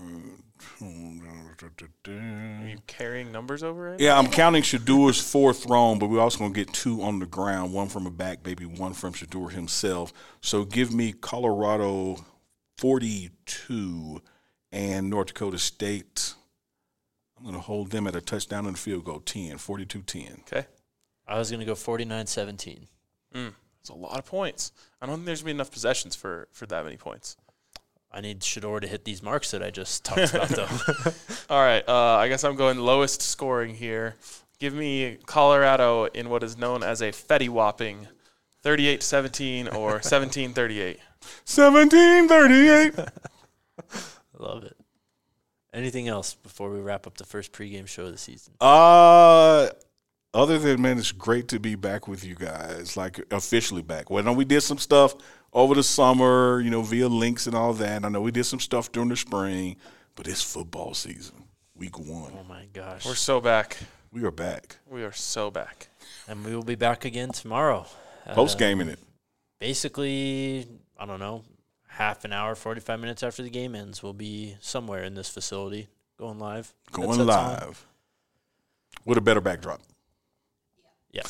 Are you carrying numbers over it? Yeah, I'm counting Shadur's fourth thrown, but we're also going to get two on the ground, one from a back, maybe one from Shadur himself. So give me Colorado forty-two and North Dakota State. I'm going to hold them at a touchdown and a field goal, ten, forty-two ten. Okay. I was going to go forty-nine seventeen. Mm, that's a lot of points. I don't think there's going to be enough possessions for, for that many points. I need Shador to hit these marks that I just talked about, though. All right. Uh, I guess I'm going lowest scoring here. Give me Colorado in what is known as a Fetty whopping thirty-eight seventeen or seventeen thirty-eight. seventeen thirty-eight. I love it. Anything else before we wrap up the first pregame show of the season? Uh, other than, man, it's great to be back with you guys, like officially back. Well, I know we did some stuff over the summer, you know, via links and all that. I know we did some stuff during the spring, but it's football season, week one. Oh, my gosh. We're so back. We are back. We are so back. And we will be back again tomorrow. Post gaming it. Basically, I don't know, half an hour, forty-five minutes after the game ends, we'll be somewhere in this facility going live. Going Headsets live. on. With a better backdrop. Yes.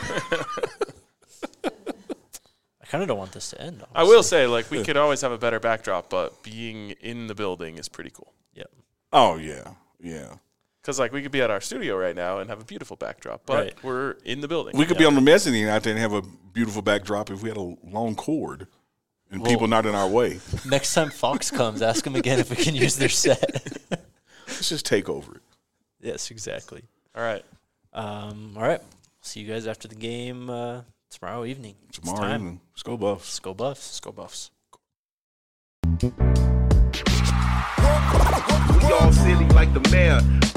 I kind of don't want this to end. I will say, like, we could always have a better backdrop, but being in the building is pretty cool. Yep. Oh, yeah. Yeah. Because, like, we could be at our studio right now and have a beautiful backdrop, but Right. we're in the building. We could be on the mezzanine out there and have a beautiful backdrop if we had a long cord and Well- people not in our way. Next time Fox comes, ask them again if we can use their set. Let's just take over it. Yes, exactly. All right. Um, all right. See you guys after the game uh, tomorrow evening. It's Tomorrow time. evening. Let's go Buffs. Let's go Buffs. Let's go Buffs. We all silly like the mayor.